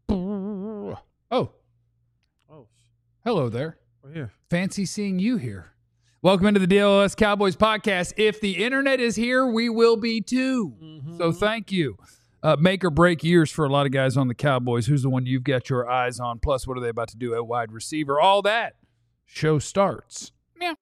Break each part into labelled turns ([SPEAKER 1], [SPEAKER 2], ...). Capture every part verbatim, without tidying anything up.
[SPEAKER 1] Oh.
[SPEAKER 2] Oh.
[SPEAKER 1] Hello there.
[SPEAKER 2] We're here.
[SPEAKER 1] Fancy seeing you here. Welcome into the D L S Cowboys podcast. If the internet is here, we will be too. Mm-hmm. So thank you. Uh, make or break years for a lot of guys on the Cowboys. Who's the one you've got your eyes on? Plus, what are they about to do at wide receiver? All that. Show starts. Meow.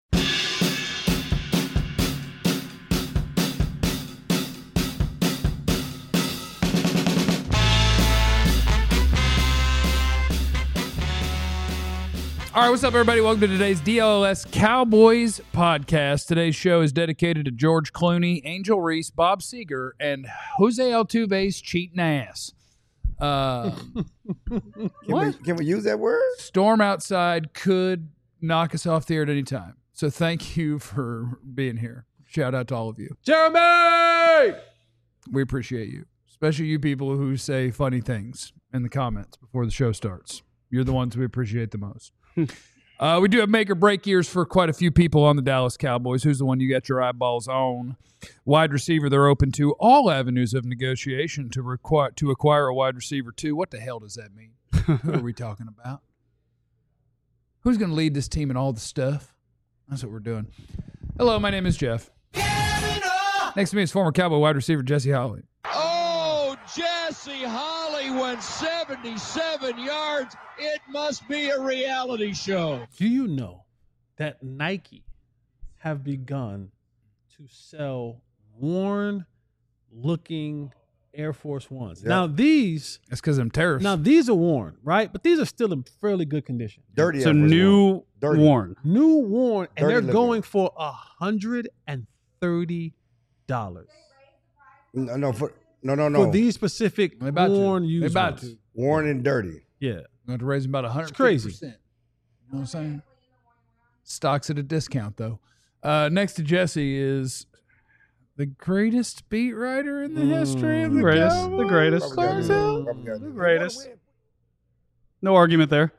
[SPEAKER 1] All right, what's up, everybody? Welcome to today's D L S Cowboys podcast. Today's show is dedicated to George Clooney, Angel Reese, Bob Seger, and Jose Altuve's cheating ass. Uh,
[SPEAKER 3] can, we, can we use that word?
[SPEAKER 1] Storm outside could knock us off the air at any time. So thank you for being here. Shout out to all of you.
[SPEAKER 2] Jeremy!
[SPEAKER 1] We appreciate you, especially you people who say funny things in the comments before the show starts. You're the ones we appreciate the most. uh, we do have make or break years for quite a few people on the Dallas Cowboys. Who's the one you got your eyeballs on? Wide receiver, they're open to all avenues of negotiation to require to acquire a wide receiver too. What the hell does that mean? Who are we talking about? Who's going to lead this team and all the stuff? That's what we're doing. Hello, my name is Jeff. Next to me is former Cowboy wide receiver Jesse Holley.
[SPEAKER 4] Oh, Jesse Holley went seventy-seven yards. It must be a reality show.
[SPEAKER 2] Do you know that Nike have begun to sell worn-looking Air Force Ones? Yep. Now these,
[SPEAKER 1] that's because I'm terrorists.
[SPEAKER 2] Now these are worn, right? But these are still in fairly good condition.
[SPEAKER 3] Dirty.
[SPEAKER 5] So new
[SPEAKER 3] Dirty.
[SPEAKER 5] worn,
[SPEAKER 2] new worn, and
[SPEAKER 3] Dirty
[SPEAKER 2] they're
[SPEAKER 3] looking.
[SPEAKER 2] going for a hundred and thirty dollars.
[SPEAKER 3] No, no, for, no, no, no.
[SPEAKER 2] For these specific
[SPEAKER 1] They about
[SPEAKER 2] worn
[SPEAKER 1] to.
[SPEAKER 2] used
[SPEAKER 1] They about
[SPEAKER 2] ones.
[SPEAKER 1] to.
[SPEAKER 3] Worn and dirty.
[SPEAKER 2] Yeah.
[SPEAKER 1] Going to raise them about one hundred fifty percent.
[SPEAKER 2] It's crazy.
[SPEAKER 1] You know what I'm saying? Stocks at a discount, though. Uh, next to Jesse is the greatest beat writer in the history of the
[SPEAKER 5] Greatest,
[SPEAKER 1] Cowboys.
[SPEAKER 5] the greatest.
[SPEAKER 3] Probably got
[SPEAKER 1] Clarence
[SPEAKER 3] it. Probably got it.
[SPEAKER 5] The greatest. No argument there.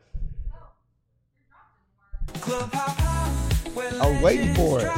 [SPEAKER 3] I was waiting for it.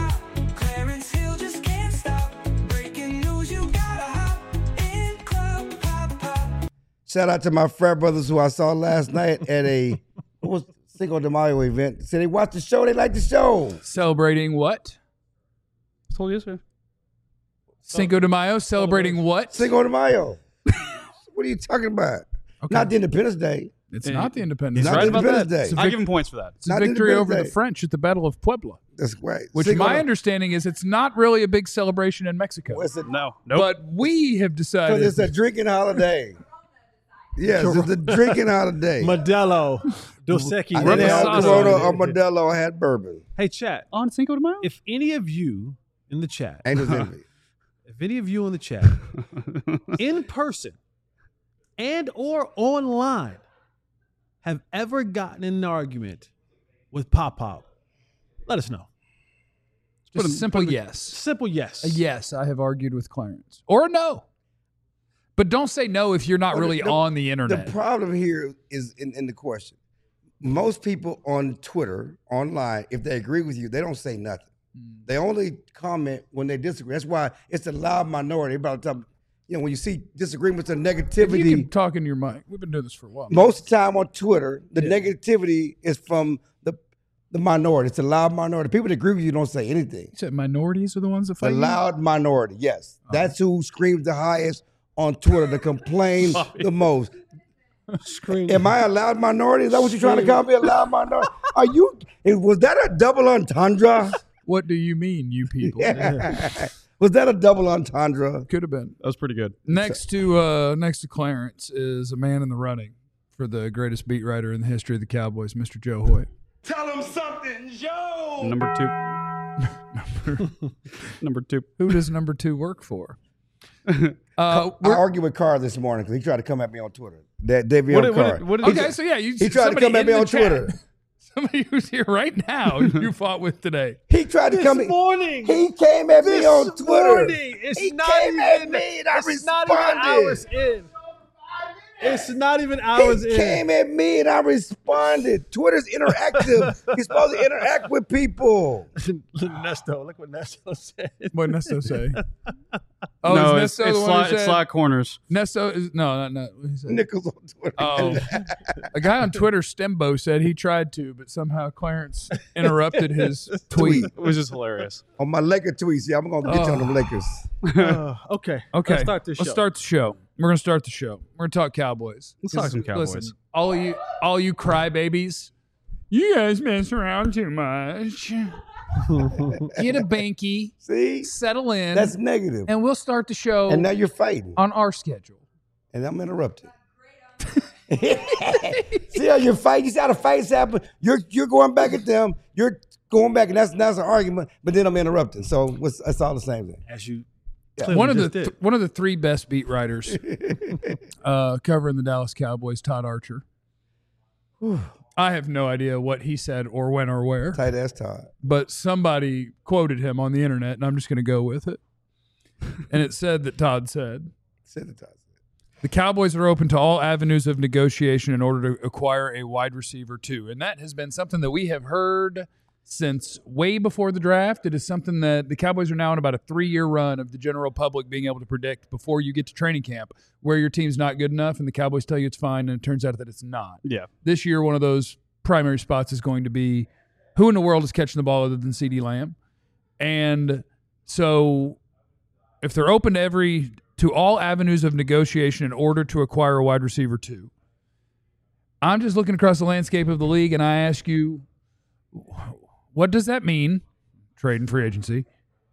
[SPEAKER 3] Shout out to my frat brothers who I saw last night at a what was Cinco de Mayo event. Said they watched the show, they liked the show.
[SPEAKER 1] Celebrating what?
[SPEAKER 5] I told you yesterday.
[SPEAKER 1] Cinco de Mayo. Celebrating what?
[SPEAKER 3] Cinco de Mayo. What are you talking about?
[SPEAKER 1] Okay.
[SPEAKER 3] Not the Independence Day.
[SPEAKER 1] It's
[SPEAKER 5] Yeah.
[SPEAKER 1] not the Independence
[SPEAKER 5] He's
[SPEAKER 3] Not
[SPEAKER 1] Day.
[SPEAKER 5] right about
[SPEAKER 3] Independence
[SPEAKER 5] that.
[SPEAKER 3] Day.
[SPEAKER 1] It's a
[SPEAKER 5] I'll
[SPEAKER 1] vic-
[SPEAKER 5] give him points for that.
[SPEAKER 1] It's a
[SPEAKER 3] Not
[SPEAKER 1] victory
[SPEAKER 3] Independence
[SPEAKER 1] over
[SPEAKER 3] Day.
[SPEAKER 1] the French at the Battle of Puebla,
[SPEAKER 3] That's right.
[SPEAKER 1] which
[SPEAKER 3] Cinco
[SPEAKER 1] my
[SPEAKER 3] de-
[SPEAKER 1] understanding is it's not really a big celebration in Mexico.
[SPEAKER 3] Well, it's a-
[SPEAKER 5] No, nope.
[SPEAKER 1] But we have decided.
[SPEAKER 3] Because it's a drinking holiday. Yes, it's a drinking holiday.
[SPEAKER 2] Modelo, Dos
[SPEAKER 3] I
[SPEAKER 2] Equis.
[SPEAKER 3] didn't have
[SPEAKER 1] Reposado.
[SPEAKER 3] Corona or Modelo. I had bourbon.
[SPEAKER 2] Hey, chat.
[SPEAKER 5] On Cinco de Mayo?
[SPEAKER 2] If any of you in the chat,
[SPEAKER 3] Angels Envy.
[SPEAKER 2] if any of you in the chat, in person and or online, have ever gotten in an argument with Pop Pop, let us know.
[SPEAKER 1] Just a simple
[SPEAKER 2] put a-
[SPEAKER 1] yes.
[SPEAKER 2] Simple yes.
[SPEAKER 1] A yes, I have argued with Clarence. Or a no. But don't say no if you're not
[SPEAKER 3] Well,
[SPEAKER 1] really
[SPEAKER 3] the-
[SPEAKER 1] on the
[SPEAKER 3] The
[SPEAKER 1] internet.
[SPEAKER 3] problem here is in, in the question. Most people on Twitter, online, if they agree with you, they don't say nothing.
[SPEAKER 1] Mm.
[SPEAKER 3] They only comment when they disagree. That's why it's a loud minority. About the time, you know, when you see disagreements and
[SPEAKER 1] If
[SPEAKER 3] negativity,
[SPEAKER 1] you can talk in your mic. We've been doing this for a while.
[SPEAKER 3] most of the time on Twitter, the
[SPEAKER 2] Yeah.
[SPEAKER 3] negativity is from the the minority. It's a loud minority. People that agree with you don't say anything.
[SPEAKER 1] You said minorities are the ones that
[SPEAKER 3] A
[SPEAKER 1] fight you?
[SPEAKER 3] loud minority, yes. That's who screams the highest on Twitter, to complain the most.
[SPEAKER 2] Scream.
[SPEAKER 3] Am I a loud minority? Is that what you're trying to call me, a loud minority? Are you? Was that a double entendre?
[SPEAKER 1] What do you mean, you people?
[SPEAKER 3] Was that a double entendre?
[SPEAKER 1] Could have been.
[SPEAKER 5] That was pretty good.
[SPEAKER 1] Next to uh, next to Clarence is a man in the running for the greatest beat writer in the history of the Cowboys, Mister Joe Hoyt.
[SPEAKER 4] Tell him something, Joe.
[SPEAKER 5] Number two. Number two.
[SPEAKER 1] Who does number two work for? Uh,
[SPEAKER 3] I
[SPEAKER 1] we're-
[SPEAKER 3] argued with Carr this morning because he tried to come at me on Twitter. That Davion
[SPEAKER 5] What did- what
[SPEAKER 3] Carr.
[SPEAKER 5] did- what did he
[SPEAKER 1] okay,
[SPEAKER 5] do?
[SPEAKER 1] so yeah, you,
[SPEAKER 3] He tried to
[SPEAKER 1] somebody
[SPEAKER 3] come at
[SPEAKER 1] in
[SPEAKER 3] me
[SPEAKER 1] the
[SPEAKER 3] on
[SPEAKER 1] chat-
[SPEAKER 3] Twitter.
[SPEAKER 1] Somebody who's here right now, you fought with today.
[SPEAKER 3] He tried to come.
[SPEAKER 2] This morning.
[SPEAKER 3] He came at me
[SPEAKER 2] This
[SPEAKER 3] on Twitter.
[SPEAKER 2] morning. It's
[SPEAKER 3] he
[SPEAKER 2] not
[SPEAKER 3] came at
[SPEAKER 2] even,
[SPEAKER 3] me and I
[SPEAKER 2] it's not even
[SPEAKER 3] responded.
[SPEAKER 2] hours in. It's not even hours
[SPEAKER 3] He
[SPEAKER 2] in.
[SPEAKER 3] came at me and I responded. Twitter's interactive. You're supposed to interact with people.
[SPEAKER 2] Nesto, look what Nesto said.
[SPEAKER 1] What did Nesto say? Oh,
[SPEAKER 5] no,
[SPEAKER 1] is
[SPEAKER 5] it's,
[SPEAKER 1] Nesto
[SPEAKER 5] it's,
[SPEAKER 1] the one
[SPEAKER 5] slot,
[SPEAKER 1] who
[SPEAKER 5] it's
[SPEAKER 1] said,
[SPEAKER 5] slot corners.
[SPEAKER 1] Nesto is no, not not. What he said?
[SPEAKER 3] Nichols on Twitter.
[SPEAKER 1] Oh, a guy on Twitter, Stembo, said he tried to, but somehow Clarence interrupted his tweet.
[SPEAKER 5] It was just hilarious.
[SPEAKER 3] On my Laker tweets, yeah, I'm going to get you on
[SPEAKER 1] Oh.
[SPEAKER 3] the Lakers.
[SPEAKER 2] Uh, okay.
[SPEAKER 1] Okay,
[SPEAKER 2] Let's start this
[SPEAKER 1] Let's
[SPEAKER 2] show.
[SPEAKER 1] start the show. We're gonna start the show. We're gonna talk Cowboys.
[SPEAKER 5] Let's talk some Cowboys.
[SPEAKER 1] Listen, all of you, all you crybabies, you guys mess around too much. Get a banky,
[SPEAKER 3] See?
[SPEAKER 1] settle in,
[SPEAKER 3] That's negative.
[SPEAKER 1] and we'll start the show
[SPEAKER 3] And now you're fighting.
[SPEAKER 1] on our schedule.
[SPEAKER 3] And I'm interrupted. See how you're fighting? You see how the fights happen? You're you're going back at them. You're going back, and that's that's an argument. But then I'm interrupting. So what's, that's all the same thing.
[SPEAKER 2] As you
[SPEAKER 3] Yeah.
[SPEAKER 1] One of the
[SPEAKER 2] just did.
[SPEAKER 1] th- one of the three best beat writers uh, covering the Dallas Cowboys, Todd Archer. I have no idea what he said or when or where,
[SPEAKER 3] Tight ass Todd.
[SPEAKER 1] but somebody quoted him on the internet, and I'm just going to go with it. And it said that Todd said,
[SPEAKER 3] Said the Todd.
[SPEAKER 1] the Cowboys are open to all avenues of negotiation in order to acquire a wide receiver too. And that has been something that we have heard since way before the draft. It is something that the Cowboys are now on about a three-year run of the general public being able to predict before you get to training camp where your team's not good enough and the Cowboys tell you it's fine and it turns out that it's not.
[SPEAKER 5] Yeah.
[SPEAKER 1] This year, one of those primary spots is going to be who in the world is catching the ball other than CeeDee Lamb. And so if they're open to every to all avenues of negotiation in order to acquire a wide receiver too, I'm just looking across the landscape of the league and I ask you, what does that mean? Trade and free agency.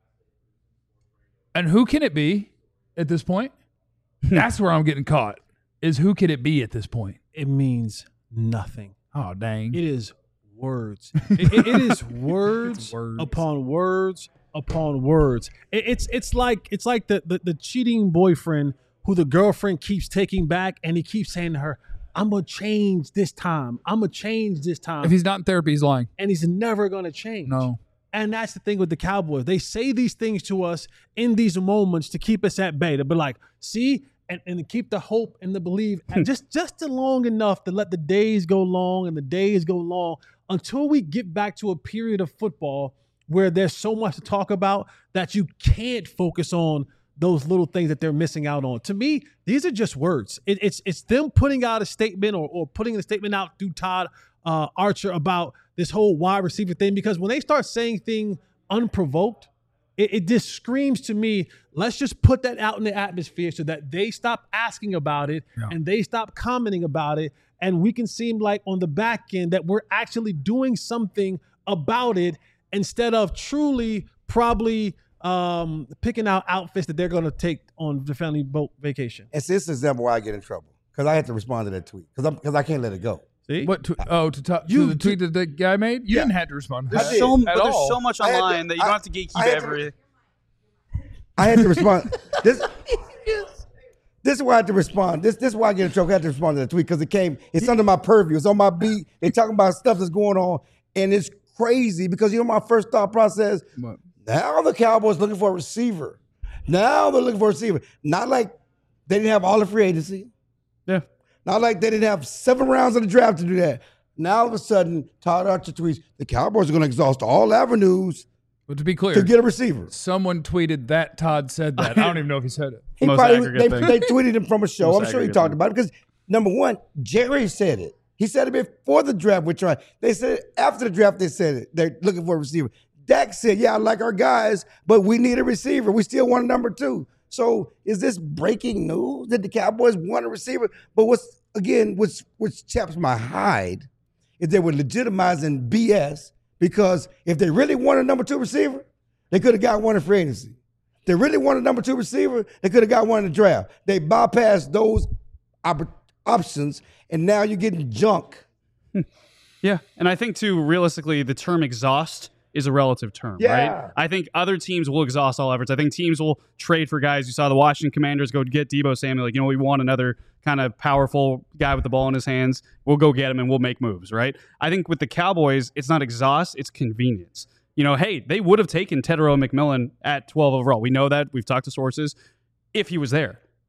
[SPEAKER 1] And who can it be at this point? That's where I'm getting caught. Is who can it be at this point?
[SPEAKER 2] it means nothing.
[SPEAKER 1] Oh, dang.
[SPEAKER 2] It is words. it, it- it is words,
[SPEAKER 1] words.
[SPEAKER 2] upon words upon words. It, it's it's like it's like the, the the cheating boyfriend who the girlfriend keeps taking back, and he keeps saying to her, "I'm gonna change this time. I'm gonna change this time,"
[SPEAKER 1] If he's not in therapy, he's lying.
[SPEAKER 2] and he's never gonna change.
[SPEAKER 1] No.
[SPEAKER 2] And that's the thing with the Cowboys. They say these things to us in these moments to keep us at bay. To be like, see, and, and to keep the hope and the belief and just, just long enough to let the days go long and the days go long until we get back to a period of football where there's so much to talk about that you can't focus on those little things that they're missing out on. To me, these are just words. It, it's it's them putting out a statement or, or putting a statement out through Todd uh, Archer about this whole wide receiver thing, because when they start saying things unprovoked, it, it just screams to me, let's just put that out in the atmosphere so that they stop asking about it
[SPEAKER 1] Yeah.
[SPEAKER 2] and they stop commenting about it. And we can seem like on the back end that we're actually doing something about it instead of truly probably um, picking out outfits that they're going to take on the family boat vacation.
[SPEAKER 3] And see, this is an example why I get in trouble. Because I had to respond to that tweet. Because because I can't let it go.
[SPEAKER 2] See?
[SPEAKER 1] What? To, oh, to, to,
[SPEAKER 2] You-
[SPEAKER 1] to the tweet that the guy made? You
[SPEAKER 3] Yeah.
[SPEAKER 1] didn't have to respond to
[SPEAKER 3] I
[SPEAKER 1] that
[SPEAKER 3] did.
[SPEAKER 5] So,
[SPEAKER 1] at
[SPEAKER 5] but there's
[SPEAKER 1] all.
[SPEAKER 5] so much
[SPEAKER 3] I had to-
[SPEAKER 5] online that you
[SPEAKER 3] I-
[SPEAKER 5] don't have to gatekeep
[SPEAKER 3] I had to-
[SPEAKER 5] every.
[SPEAKER 3] I had to respond. this, this is why I had to respond. This, this is why I get in trouble. I had to respond to that tweet because it came, it's under my purview. It's on my beat. They talking about stuff that's going on. And it's crazy because, you know, my first thought process,
[SPEAKER 1] What?
[SPEAKER 3] now the Cowboys looking for a receiver. Now they're looking for a receiver. Not like they didn't have all the free agency.
[SPEAKER 5] Yeah.
[SPEAKER 3] Not like they didn't have seven rounds of the draft to do that. Now all of a sudden, Todd Archer tweets, the Cowboys are going to exhaust all avenues
[SPEAKER 1] But to be clear,
[SPEAKER 3] to get a receiver.
[SPEAKER 1] someone tweeted that Todd said that. I don't even know if he said it.
[SPEAKER 3] He
[SPEAKER 5] Most
[SPEAKER 3] probably,
[SPEAKER 5] aggregate
[SPEAKER 3] they,
[SPEAKER 5] thing.
[SPEAKER 3] they tweeted him from a show.
[SPEAKER 5] Most
[SPEAKER 3] I'm sure he
[SPEAKER 5] aggregate
[SPEAKER 3] talked
[SPEAKER 5] thing.
[SPEAKER 3] about it because, number one, Jerry said it. He said it before the draft. We're trying. They said it after the draft. They said it. They're looking for a receiver. Dak said, yeah, I like our guys, but we need a receiver. We still want a number two. So is this breaking news that the Cowboys want a receiver? But what's, again, which, which chaps my hide is they were legitimizing B S because if they really want a number two receiver, they could have got one in free agency. If they really want a number two receiver, they could have got one in the draft. They bypassed those op- options, and now you're getting junk.
[SPEAKER 5] Yeah, and I think too, realistically, the term exhaust is a relative term,
[SPEAKER 3] Yeah.
[SPEAKER 5] right? I think other teams will exhaust all efforts. I think teams will trade for guys. You saw the Washington Commanders go get Deebo Samuel. Like, you know, we want another kind of powerful guy with the ball in his hands. We'll go get him and we'll make moves, right? I think with the Cowboys, it's not exhaust, it's convenience. You know, hey, they would have taken Tedero McMillan at twelve overall. We know that. We've talked to sources if he was there.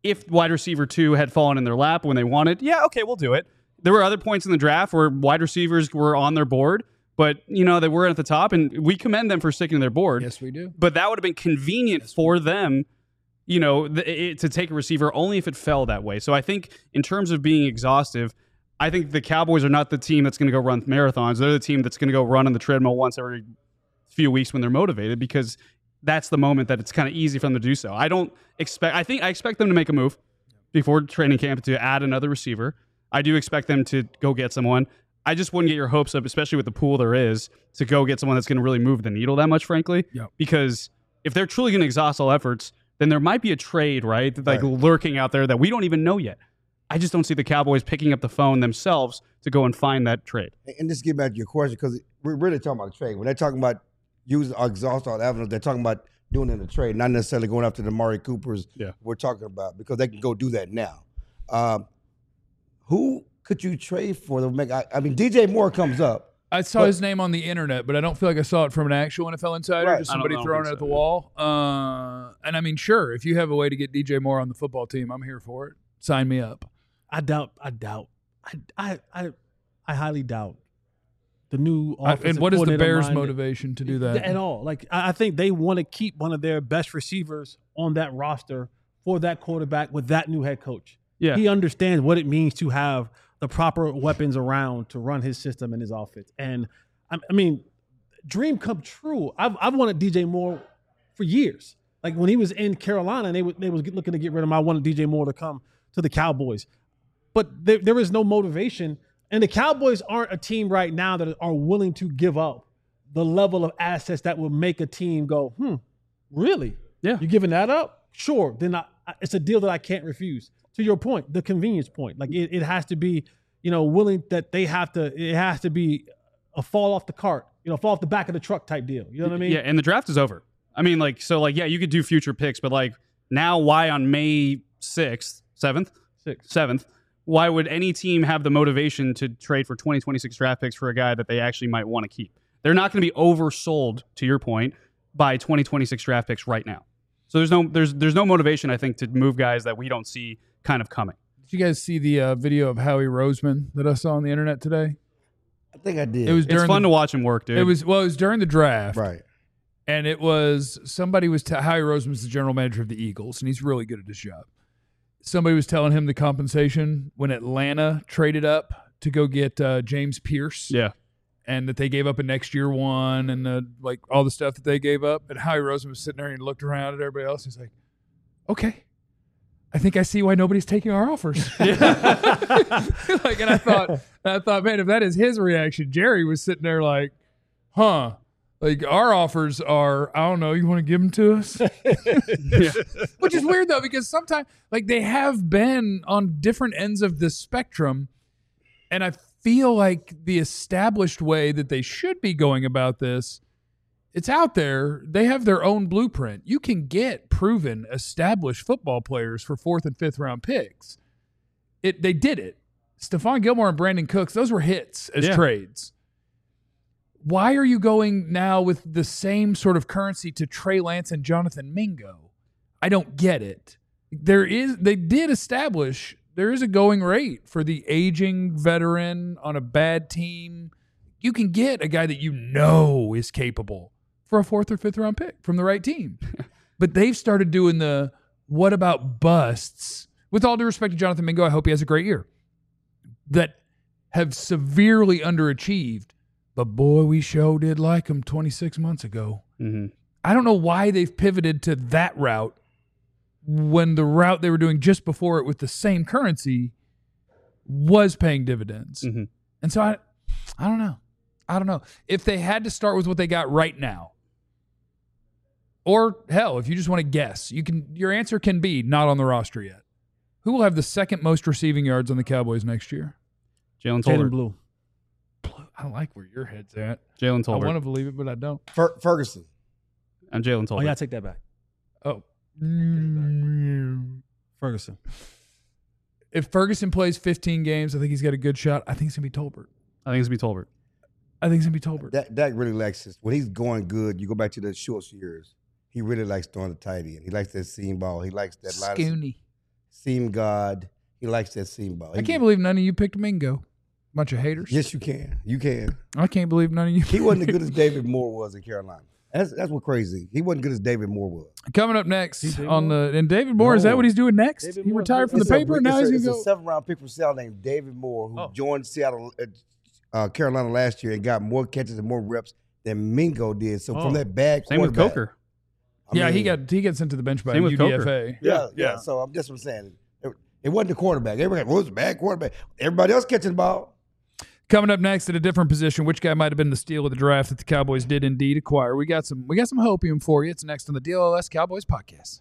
[SPEAKER 5] if wide receiver two had fallen in their lap when they wanted, yeah, okay, we'll do it. There were other points in the draft where wide receivers were on their board, but you know they weren't at the top, and we commend them for sticking to their board.
[SPEAKER 1] Yes, we do.
[SPEAKER 5] But that would have been convenient yes, for them, you know, th- it, to take a receiver only if it fell that way. So I think in terms of being exhaustive, I think the Cowboys are not the team that's going to go run marathons. They're the team that's going to go run on the treadmill once every few weeks when they're motivated, because that's the moment that it's kind of easy for them to do so. I don't expect. I think I expect them to make a move before training camp to add another receiver. I do expect them to go get someone. I just wouldn't get your hopes up, especially with the pool there is, to go get someone that's going to really move the needle that much, frankly.
[SPEAKER 1] Yep.
[SPEAKER 5] Because if they're truly going to exhaust all efforts, then there might be a trade, right? Like right. lurking out there that we don't even know yet. I just don't see the Cowboys picking up the phone themselves to go and find that trade.
[SPEAKER 3] And just get back to your question, because we're really talking about a trade. When they're talking about using or exhaust all avenues, they're talking about doing it in a trade, not necessarily going after the Amari Coopers
[SPEAKER 5] yeah.
[SPEAKER 3] we're talking about, because they can go do that now. Um, who could you trade for to make? I, I mean, D J Moore comes up.
[SPEAKER 1] I saw
[SPEAKER 3] but,
[SPEAKER 1] his name on the internet, but I don't feel like I saw it from an actual N F L insider.
[SPEAKER 3] Right.
[SPEAKER 1] Just somebody throwing it
[SPEAKER 5] so.
[SPEAKER 1] at the wall. Uh, and I mean, sure, if you have a way to get D J Moore on the football team, I'm here for it. Sign me up.
[SPEAKER 2] I doubt. I doubt. I I I, I highly doubt the new offensive
[SPEAKER 1] and what is the Bears'
[SPEAKER 2] minded,
[SPEAKER 1] motivation to do that
[SPEAKER 2] at all? Like, I think they want to keep one of their best receivers on that roster for that quarterback with that new head coach.
[SPEAKER 5] Yeah,
[SPEAKER 2] he understands what it means to have the proper weapons around to run his system and his offense. And I, I mean, dream come true. I've I've wanted D J Moore for years. Like when he was in Carolina, and they were, they was looking to get rid of him. I wanted D J Moore to come to the Cowboys, but there, there is no motivation. And the Cowboys aren't a team right now that are willing to give up the level of assets that will make a team go, hmm, really?
[SPEAKER 5] Yeah.
[SPEAKER 2] You're giving that up? Sure. Then I, it's a deal that I can't refuse. To your point, the convenience point. Like it, it has to be, you know, willing that they have to, it has to be a fall off the cart, you know, fall off the back of the truck type deal. You know what I mean?
[SPEAKER 5] Yeah, and the draft is over. I mean, like, so like, yeah, you could do future picks, but like now why on May sixth, seventh?
[SPEAKER 2] Sixth.
[SPEAKER 5] seventh, why would any team have the motivation to trade for twenty twenty-six draft picks for a guy that they actually might want to keep? They're not going to be oversold, to your point, by twenty twenty-six draft picks right now. So there's no there's there's no motivation, I think, to move guys that we don't see kind of coming.
[SPEAKER 1] Did you guys see the uh, video of Howie Roseman that I saw on the internet today?
[SPEAKER 3] I think I did.
[SPEAKER 1] It was
[SPEAKER 5] It's fun
[SPEAKER 1] the,
[SPEAKER 5] to watch him work, dude.
[SPEAKER 1] It was well, it was during the draft,
[SPEAKER 3] right?
[SPEAKER 1] And it was somebody was t- Howie Roseman's the general manager of the Eagles, and he's really good at his job. Somebody was telling him the compensation when Atlanta traded up to go get uh, James Pierce.
[SPEAKER 5] Yeah.
[SPEAKER 1] And that they gave up a next year one and uh, like all the stuff that they gave up. And Howie Roseman was sitting there and he looked around at everybody else. He's like, okay, I think I see why nobody's taking our offers. like, and I thought, and I thought, man, if that is his reaction, Jerry was sitting there like, huh. Like, our offers are, I don't know, you want to give them to us? yeah. Which is weird, though, because sometimes, like, they have been on different ends of the spectrum, and I feel like the established way that they should be going about this, it's out there. They have their own blueprint. You can get proven, established football players for fourth and fifth round picks. It They did it. Stephon Gilmore and Brandon Cooks, those were hits as
[SPEAKER 5] yeah.
[SPEAKER 1] trades. Why are you going now with the same sort of currency to Trey Lance and Jonathan Mingo? I don't get it. There is, they did establish there is a going rate for the aging veteran on a bad team. You can get a guy that you know is capable for a fourth or fifth round pick from the right team. But they've started doing the what about busts? With all due respect to Jonathan Mingo, I hope he has a great year. That have severely underachieved. But boy, we sure did like him twenty-six months ago.
[SPEAKER 5] Mm-hmm.
[SPEAKER 1] I don't know why they've pivoted to that route when the route they were doing just before it with the same currency was paying dividends.
[SPEAKER 5] Mm-hmm.
[SPEAKER 1] And so I, I don't know. I don't know. If they had to start with what they got right now, or hell, if you just want to guess, you can. Your answer can be not on the roster yet. Who will have the second most receiving yards on the Cowboys next year?
[SPEAKER 5] Jalen
[SPEAKER 2] Jalen
[SPEAKER 5] Tolbert.
[SPEAKER 2] Blue.
[SPEAKER 1] I like where your head's at.
[SPEAKER 5] Jalen Tolbert.
[SPEAKER 1] I want to believe it, but I don't.
[SPEAKER 3] Fer- Ferguson.
[SPEAKER 5] I'm Jalen Tolbert.
[SPEAKER 2] Oh, yeah, take that back.
[SPEAKER 1] Oh.
[SPEAKER 2] Ferguson.
[SPEAKER 1] If Ferguson plays fifteen games, I think he's got a good shot. I think it's going to be Tolbert.
[SPEAKER 5] I think it's going to be Tolbert.
[SPEAKER 1] I think it's going to be Tolbert.
[SPEAKER 3] Dak, Dak really likes this. When he's going good, you go back to the Schultz years. He really likes throwing the tight end. He likes that seam ball. He likes that line.
[SPEAKER 1] Scooney.
[SPEAKER 3] seam god. He likes that seam ball.
[SPEAKER 1] I
[SPEAKER 3] He-
[SPEAKER 1] can't believe none of you picked Mingo. Bunch of haters.
[SPEAKER 3] Yes, you can. You can.
[SPEAKER 1] I can't believe none of you.
[SPEAKER 3] He wasn't as good as David Moore was in Carolina. That's that's what crazy. He wasn't good as David Moore was.
[SPEAKER 1] Coming up next
[SPEAKER 2] David
[SPEAKER 1] on
[SPEAKER 2] Moore?
[SPEAKER 1] the and David Moore, is that
[SPEAKER 3] No.
[SPEAKER 1] what he's doing next?
[SPEAKER 2] David
[SPEAKER 1] he
[SPEAKER 2] Moore's
[SPEAKER 1] retired from the
[SPEAKER 3] It's a-
[SPEAKER 1] paper and now
[SPEAKER 3] it's
[SPEAKER 1] he's
[SPEAKER 3] a,
[SPEAKER 1] gonna
[SPEAKER 3] it's
[SPEAKER 1] go.
[SPEAKER 3] a seventh round pick from Seattle named David Moore, who
[SPEAKER 2] Oh.
[SPEAKER 3] joined Seattle, uh, uh, Carolina last year and got more catches and more reps than Mingo did. So
[SPEAKER 2] Oh.
[SPEAKER 3] from that bad
[SPEAKER 5] Same with
[SPEAKER 3] quarterback-
[SPEAKER 5] Coker.
[SPEAKER 3] I
[SPEAKER 1] yeah, he
[SPEAKER 3] mean,
[SPEAKER 1] got he gets into the bench by
[SPEAKER 5] Same with
[SPEAKER 1] U D F A.
[SPEAKER 5] Coker.
[SPEAKER 3] yeah,
[SPEAKER 2] Yeah,
[SPEAKER 3] yeah,
[SPEAKER 2] yeah.
[SPEAKER 3] So I'm just what I'm saying. It, it wasn't the quarterback. Everybody well, it was a bad quarterback. Everybody else catching the ball.
[SPEAKER 1] Coming up next at a different position, which guy might have been the steal of the draft that the Cowboys did indeed acquire? We got some we got some hopium for you. It's next on the D L L S Cowboys podcast.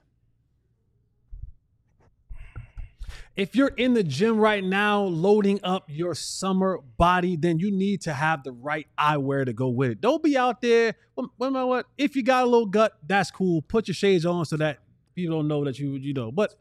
[SPEAKER 2] If you're in the gym right now loading up your summer body, then you need to have the right eyewear to go with it. Don't be out there. Well, well, you know what? If you got a little gut, that's cool. Put your shades on so that people don't know that you you know. But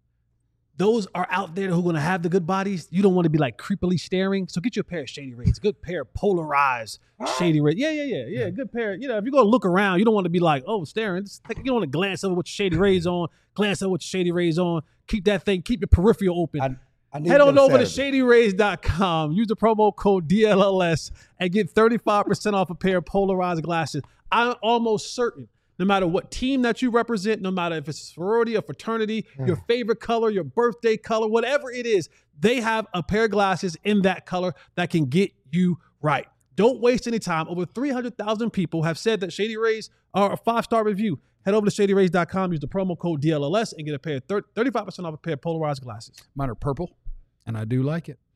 [SPEAKER 2] those are out there who are going to have the good bodies. You don't want to be like creepily staring. So get you a pair of Shady Rays, a good pair of polarized Shady Rays. Yeah, yeah, yeah, yeah. Good pair. You know, if you're going to look around, you don't want to be like, oh, staring. Just take- you don't want to glance over with your Shady Rays on, glance over with your Shady Rays on. Keep that thing, keep your peripheral open.
[SPEAKER 3] I, I need
[SPEAKER 2] Head on
[SPEAKER 3] them
[SPEAKER 2] over to
[SPEAKER 3] Saturday.
[SPEAKER 2] shady rays dot com. Use the promo code D L L S and get thirty-five percent off a pair of polarized glasses. I'm almost certain, no matter what team that you represent, no matter if it's a sorority or fraternity, your favorite color, your birthday color, whatever it is, they have a pair of glasses in that color that can get you right. Don't waste any time. Over three hundred thousand people have said that Shady Rays are a five-star review. Head over to shady rays dot com, use the promo code D L L S, and get a pair of thirty-five percent off a pair of polarized glasses.
[SPEAKER 1] Mine are purple, and I do like it.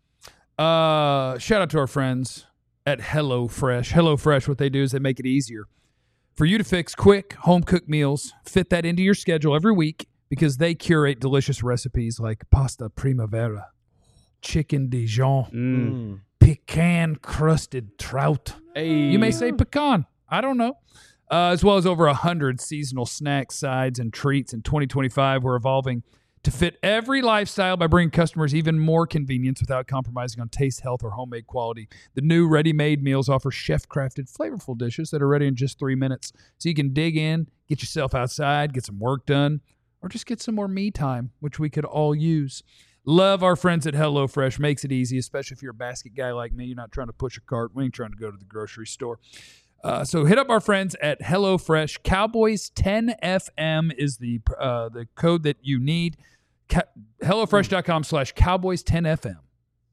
[SPEAKER 1] Uh, shout out to our friends at HelloFresh. HelloFresh, what they do is they make it easier for you to fix quick home-cooked meals, fit that into your schedule every week because they curate delicious recipes like pasta primavera, chicken Dijon,
[SPEAKER 5] Mm.
[SPEAKER 1] pecan-crusted trout.
[SPEAKER 5] Hey.
[SPEAKER 1] You may say pecan. I don't know. Uh, as well as over one hundred seasonal snacks, sides, and treats in twenty twenty-five. We're evolving to fit every lifestyle by bringing customers even more convenience without compromising on taste, health, or homemade quality. The new ready-made meals offer chef-crafted, flavorful dishes that are ready in just three minutes. So you can dig in, get yourself outside, get some work done, or just get some more me time, which we could all use. Love our friends at HelloFresh. Makes it easy, especially if you're a basket guy like me. You're not trying to push a cart. We ain't trying to go to the grocery store. Uh, so hit up our friends at HelloFresh. Cowboys ten F M is the uh, the code that you need. Ca- HelloFresh.com slash Cowboys ten F M.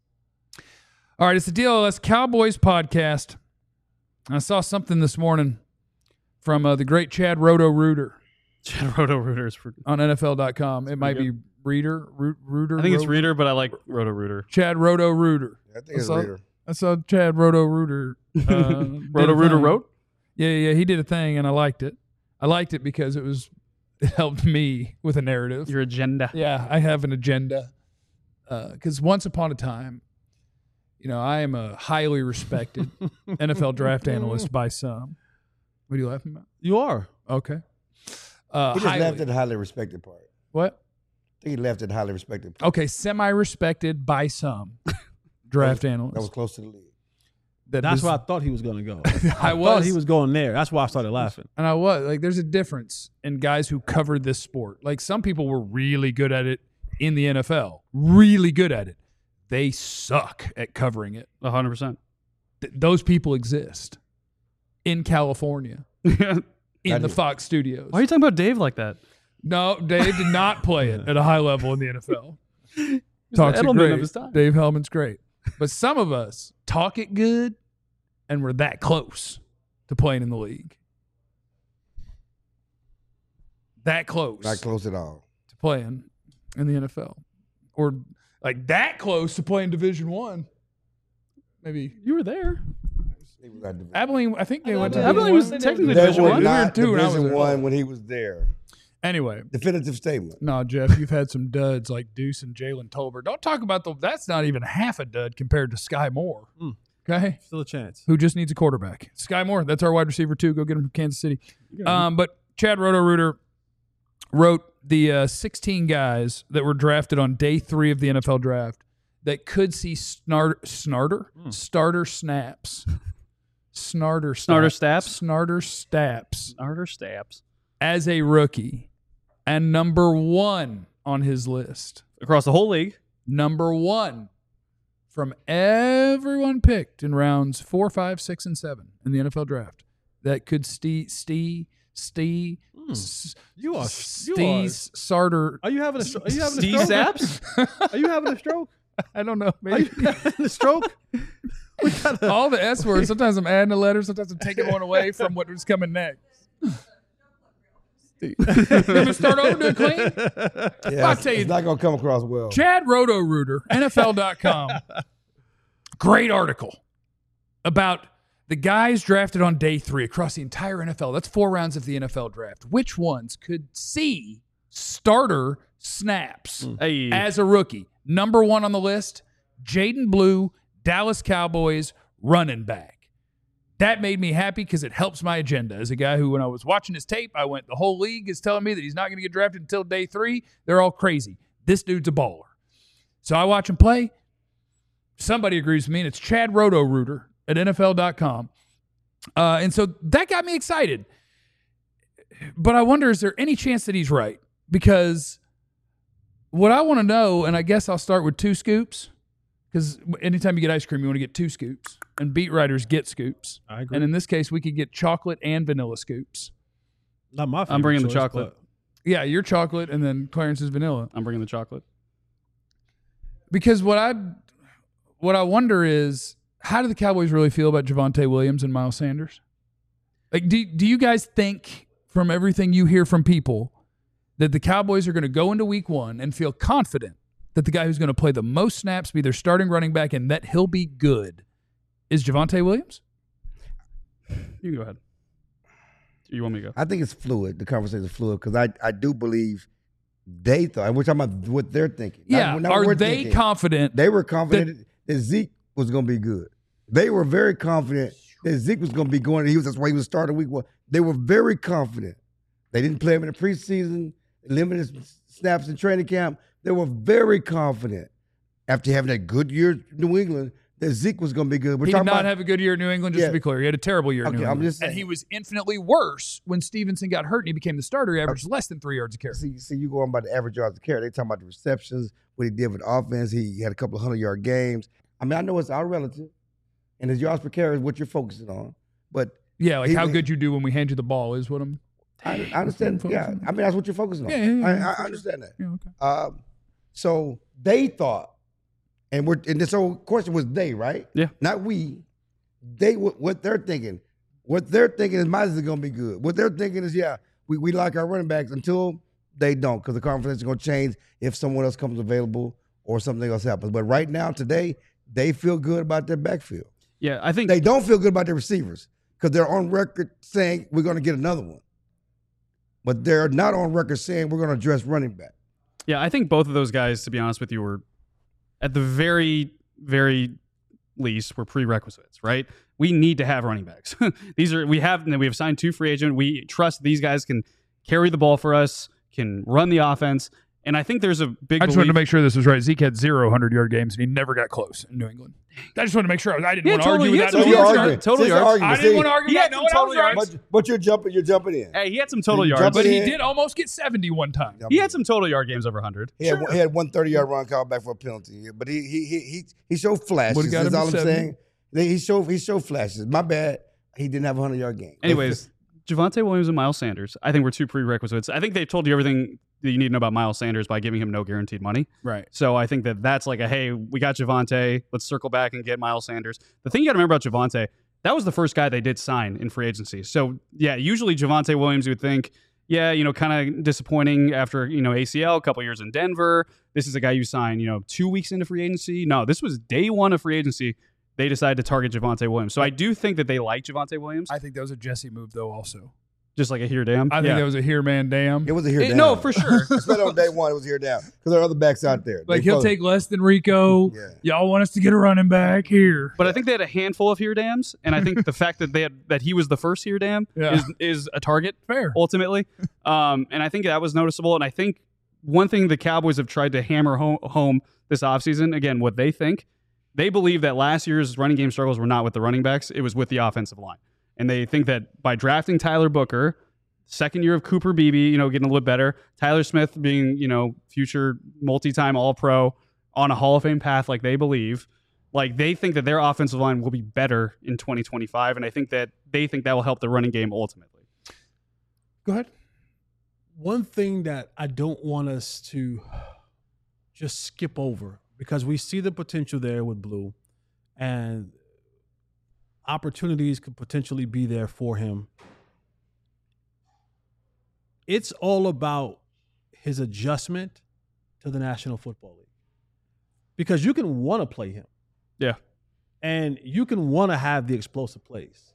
[SPEAKER 1] All right, it's the D L L S Cowboys podcast. I saw something this morning from uh, the great Chad Roto-Rooter
[SPEAKER 5] Chad Roto Rooters. For,
[SPEAKER 1] on N F L dot com. It might be Reader, Root, Rooter.
[SPEAKER 5] I think it's
[SPEAKER 1] Ro-
[SPEAKER 5] Reader, but I like Roto Rooter.
[SPEAKER 1] Chad Roto-Rooter.
[SPEAKER 3] I think it's
[SPEAKER 1] I saw-
[SPEAKER 3] later.
[SPEAKER 1] I saw Chad Roto-Rooter. Uh, did a
[SPEAKER 5] Roto Rooter
[SPEAKER 1] thing.
[SPEAKER 5] wrote?
[SPEAKER 1] Yeah, yeah, he did a thing, and I liked it. I liked it because it was it helped me with a narrative.
[SPEAKER 5] Your agenda.
[SPEAKER 1] Yeah, I have an agenda. Because once upon a time, you know, I am a highly respected N F L draft analyst by some. What are you laughing about?
[SPEAKER 2] You are.
[SPEAKER 1] Okay. Uh,
[SPEAKER 3] He just
[SPEAKER 1] highly-
[SPEAKER 3] left at the highly respected part.
[SPEAKER 1] What?
[SPEAKER 3] I think he left at the highly respected part.
[SPEAKER 1] Okay, semi-respected by some draft analyst.
[SPEAKER 3] That was close to the league.
[SPEAKER 1] That
[SPEAKER 2] That's
[SPEAKER 1] was-
[SPEAKER 2] where I thought he was going to go.
[SPEAKER 1] I
[SPEAKER 2] I
[SPEAKER 1] was.
[SPEAKER 2] thought he was going there. That's why I started laughing.
[SPEAKER 1] And I was like, there's a difference in guys who covered this sport. Like some people were really good at it in the N F L, really good at it. They suck at covering it.
[SPEAKER 5] one hundred percent.
[SPEAKER 1] Th- those people exist in California,
[SPEAKER 5] Why
[SPEAKER 1] in the Fox studios.
[SPEAKER 5] are you talking about Dave like that?
[SPEAKER 1] No, Dave did not play it at a high level in the N F L. Talks it
[SPEAKER 5] Edelman
[SPEAKER 1] great.
[SPEAKER 5] of his time.
[SPEAKER 1] Dave Hellman's great. But some of us talk it good, and we're that close to playing in the league. That close.
[SPEAKER 3] Not close at all.
[SPEAKER 1] to playing in the N F L, or like that close to playing Division One. Maybe
[SPEAKER 5] You were there.
[SPEAKER 3] He was at Division-
[SPEAKER 1] Abilene. I think they went to
[SPEAKER 5] Abilene was
[SPEAKER 1] Division
[SPEAKER 5] technically
[SPEAKER 3] They
[SPEAKER 5] Division
[SPEAKER 3] were
[SPEAKER 5] One.
[SPEAKER 3] not
[SPEAKER 1] We were two when I was
[SPEAKER 3] Division
[SPEAKER 1] there.
[SPEAKER 3] One when he was there.
[SPEAKER 1] Anyway,
[SPEAKER 3] Definitive statement.
[SPEAKER 1] no, Jeff, you've had some duds like Deuce and Jalen Tolbert. Don't talk about the. That's not even half a dud compared to Sky Moore.
[SPEAKER 2] Mm.
[SPEAKER 1] Okay,
[SPEAKER 2] Still a chance.
[SPEAKER 1] who just needs a quarterback. Sky Moore, that's our wide receiver too. Go get him from Kansas City. Um, but Chad Roto-Rooter wrote the uh, sixteen guys that were drafted on day three of the N F L draft that could see snart, snarter,
[SPEAKER 2] Hmm.
[SPEAKER 1] starter snaps. Snarter
[SPEAKER 5] Snarter
[SPEAKER 1] snaps.
[SPEAKER 5] staps?
[SPEAKER 1] Snarter staps
[SPEAKER 5] Arter Stabs.
[SPEAKER 1] as a rookie. And number one on his list
[SPEAKER 5] across the whole league.
[SPEAKER 1] Number one from everyone picked in rounds four, five, six, and seven in the N F L draft that could stee, stee, stee,
[SPEAKER 2] Hmm.
[SPEAKER 1] s-
[SPEAKER 2] You are. You are.
[SPEAKER 1] stees, Sarter.
[SPEAKER 2] Are you having a? stro- Are you having a
[SPEAKER 5] Steve
[SPEAKER 2] stroke?
[SPEAKER 5] Saps?
[SPEAKER 2] Are you having a stroke?
[SPEAKER 1] I don't know.
[SPEAKER 2] Are
[SPEAKER 1] Maybe.
[SPEAKER 2] you having a stroke? We gotta-
[SPEAKER 1] All the S words. Sometimes I'm adding a letter. Sometimes I'm taking one away from what was coming next. You want me to start over doing clean?
[SPEAKER 3] Yeah,
[SPEAKER 1] I'll
[SPEAKER 3] it's,
[SPEAKER 1] tell you-
[SPEAKER 3] it's not gonna come across well.
[SPEAKER 1] Chad Roto-Rooter, N F L dot com. Great article about the guys drafted on day three across the entire N F L. That's four rounds of the N F L draft. Which ones could see starter snaps
[SPEAKER 5] Hey.
[SPEAKER 1] as a rookie? Number one on the list, Jaden Blue, Dallas Cowboys running back. That made me happy because it helps my agenda. As a guy who, when I was watching his tape, I went, the whole league is telling me that he's not going to get drafted until day three. They're all crazy. This dude's a baller. So I watch him play. Somebody agrees with me, and it's Chad Roto-Rooter at N F L dot com. Uh, and so that got me excited. But I wonder, is there any chance that he's right? Because what I want to know, and I guess I'll start with two scoops, because anytime you get ice cream, you want to get two scoops. And beat writers get scoops.
[SPEAKER 2] I agree.
[SPEAKER 1] And in this case, we could get chocolate and vanilla scoops.
[SPEAKER 2] Not my.
[SPEAKER 5] I'm bringing the
[SPEAKER 2] favorite choice,
[SPEAKER 5] chocolate.
[SPEAKER 1] Yeah, your chocolate, and then Clarence's vanilla.
[SPEAKER 5] I'm bringing the chocolate.
[SPEAKER 1] Because what I what I wonder is, how do the Cowboys really feel about Javonte Williams and Miles Sanders? Like, do do you guys think, from everything you hear from people, that the Cowboys are going to go into week one and feel confident that the guy who's going to play the most snaps, be their starting running back, and that he'll be good, is Javonte Williams?
[SPEAKER 5] You can go ahead. You want me to go?
[SPEAKER 3] I think it's fluid. The conversation is fluid because I, I do believe they thought, and we're talking about what they're thinking. Not-
[SPEAKER 1] Yeah.
[SPEAKER 3] not what
[SPEAKER 1] Are
[SPEAKER 3] we're
[SPEAKER 1] they
[SPEAKER 3] thinking.
[SPEAKER 1] confident?
[SPEAKER 3] They were confident that Zeke was going to be good. They were very confident that Zeke was going to be going. He was that's why he was starting week one. They were very confident. They didn't play him in the preseason, limited snaps in training camp. They were very confident after having that good year in New England that Zeke was going to be good. We're
[SPEAKER 1] He did
[SPEAKER 3] talking
[SPEAKER 1] not
[SPEAKER 3] about
[SPEAKER 1] have a good year in New England, just
[SPEAKER 3] Yeah.
[SPEAKER 1] to be clear. He had a terrible year in
[SPEAKER 3] Okay,
[SPEAKER 1] New
[SPEAKER 3] I'm
[SPEAKER 1] England.
[SPEAKER 3] just
[SPEAKER 1] and
[SPEAKER 3] saying.
[SPEAKER 1] he was infinitely worse when Stevenson got hurt and he became the starter. He averaged less than three yards a carry.
[SPEAKER 3] See, see, you go on by the average yards of carry. They talking about the receptions, what he did with offense. He had a couple of hundred yard games. I mean, I know it's our relative, and his yards per carry is what you're focusing on. But
[SPEAKER 1] Yeah, like
[SPEAKER 3] He-
[SPEAKER 1] how good you do when we hand you the ball is what I'm.
[SPEAKER 3] I, I understand. Yeah, I mean that's what you're focusing on.
[SPEAKER 1] Yeah, yeah, yeah,
[SPEAKER 3] I,
[SPEAKER 1] yeah,
[SPEAKER 3] I
[SPEAKER 1] for
[SPEAKER 3] understand that.
[SPEAKER 1] Yeah, okay.
[SPEAKER 3] Um, so they thought, and we're and this whole question was they, right?
[SPEAKER 5] Yeah.
[SPEAKER 3] Not we. They what, what they're thinking. What they're thinking is Miles is going to be good. What they're thinking is, yeah, we, we like our running backs until they don't, because the conference is going to change if someone else comes available or something else happens. But right now, today, they feel good about their backfield.
[SPEAKER 5] Yeah, I think
[SPEAKER 3] They don't feel good about their receivers because they're on record saying we're going to get another one. But they're not on record saying we're going to address running back.
[SPEAKER 5] Yeah, I think both of those guys, to be honest with you, were at the very, very least were prerequisites, right? We need to have running backs. These are we have we have signed two free agent. We trust these guys can carry the ball for us, can run the offense, and I think there's a big.
[SPEAKER 1] I just wanted to
[SPEAKER 5] belief-
[SPEAKER 1] make sure this was right. Zeke had zero hundred-yard games, and he never got close in New England. I just wanted to make sure. I didn't
[SPEAKER 5] Yeah,
[SPEAKER 1] want to
[SPEAKER 5] totally.
[SPEAKER 1] argue
[SPEAKER 5] He
[SPEAKER 1] with
[SPEAKER 5] had
[SPEAKER 1] that.
[SPEAKER 5] some
[SPEAKER 1] No,
[SPEAKER 5] huge
[SPEAKER 1] I was
[SPEAKER 5] yards.
[SPEAKER 1] right.
[SPEAKER 5] Total
[SPEAKER 3] It's an
[SPEAKER 5] yards.
[SPEAKER 3] argument.
[SPEAKER 1] I didn't
[SPEAKER 3] See,
[SPEAKER 1] want to argue
[SPEAKER 5] He
[SPEAKER 1] that.
[SPEAKER 5] had
[SPEAKER 1] No
[SPEAKER 5] some
[SPEAKER 1] one
[SPEAKER 5] total
[SPEAKER 1] else right.
[SPEAKER 5] yards.
[SPEAKER 3] But, but you're jumping. You're jumping in.
[SPEAKER 5] Hey, he had some total
[SPEAKER 3] You
[SPEAKER 5] yards.
[SPEAKER 3] jump
[SPEAKER 1] But
[SPEAKER 3] in.
[SPEAKER 1] he did almost get seventy one time.
[SPEAKER 5] He had some total yard games over one hundred.
[SPEAKER 3] He had, he had one thirty-yard run called back for a penalty. But he he he he, he showed flashes.
[SPEAKER 1] Would've got
[SPEAKER 3] That's
[SPEAKER 1] him
[SPEAKER 3] all
[SPEAKER 1] to
[SPEAKER 3] I'm
[SPEAKER 1] seventy.
[SPEAKER 3] saying. They- He showed he showed flashes. My bad. He didn't have a hundred-yard game.
[SPEAKER 5] Anyways, Javonte Williams and Miles Sanders, I think were two prerequisites. I think they've told you everything that you need to know about Miles Sanders by giving him no guaranteed money.
[SPEAKER 1] Right.
[SPEAKER 5] So I think that that's like a, hey, we got Javonte. Let's circle back and get Miles Sanders. The thing you got to remember about Javonte, that was the first guy they did sign in free agency. So, yeah, usually Javonte Williams, you would think, yeah, you know, kind of disappointing after, you know, A C L, a couple years in Denver. This is a guy you sign, you know, two weeks into free agency. No, this was day one of free agency. They decided to target Javonte Williams. So I do think that they like Javonte Williams,
[SPEAKER 1] I think that was a Jesse move, though, also.
[SPEAKER 5] just like a here damn.
[SPEAKER 1] I think
[SPEAKER 5] yeah.
[SPEAKER 1] that was a here man damn.
[SPEAKER 3] It was a here
[SPEAKER 5] It-
[SPEAKER 3] down.
[SPEAKER 5] no, for sure.
[SPEAKER 3] Especially on day one, it was here down because there are other backs out there.
[SPEAKER 1] Like,
[SPEAKER 3] They
[SPEAKER 1] he'll
[SPEAKER 3] both-
[SPEAKER 1] take less than Rico.
[SPEAKER 3] Yeah.
[SPEAKER 1] Y'all want us to get a running back here.
[SPEAKER 5] But I think they had a handful of here dams, and I think the fact that they had that he was the first here dam
[SPEAKER 1] Yeah.
[SPEAKER 5] is is a target
[SPEAKER 1] Fair.
[SPEAKER 5] ultimately. Um, and I think that was noticeable. And I think one thing the Cowboys have tried to hammer home, home this offseason, again, what they think, they believe that last year's running game struggles were not with the running backs, it was with the offensive line. And they think that by drafting Tyler Booker, second year of Cooper Beebe, you know, getting a little bit better. Tyler Smith being, you know, future multi-time All-Pro on a Hall of Fame path like they believe. Like, they think that their offensive line will be better in twenty twenty-five, and I think that they think that will help the running game ultimately.
[SPEAKER 1] Go ahead.
[SPEAKER 2] One thing that I don't want us to just skip over, because we see the potential there with Blue, and opportunities could potentially be there for him. It's all about his adjustment to the National Football League. Because you can want to play him.
[SPEAKER 5] Yeah.
[SPEAKER 2] And you can want to have the explosive plays.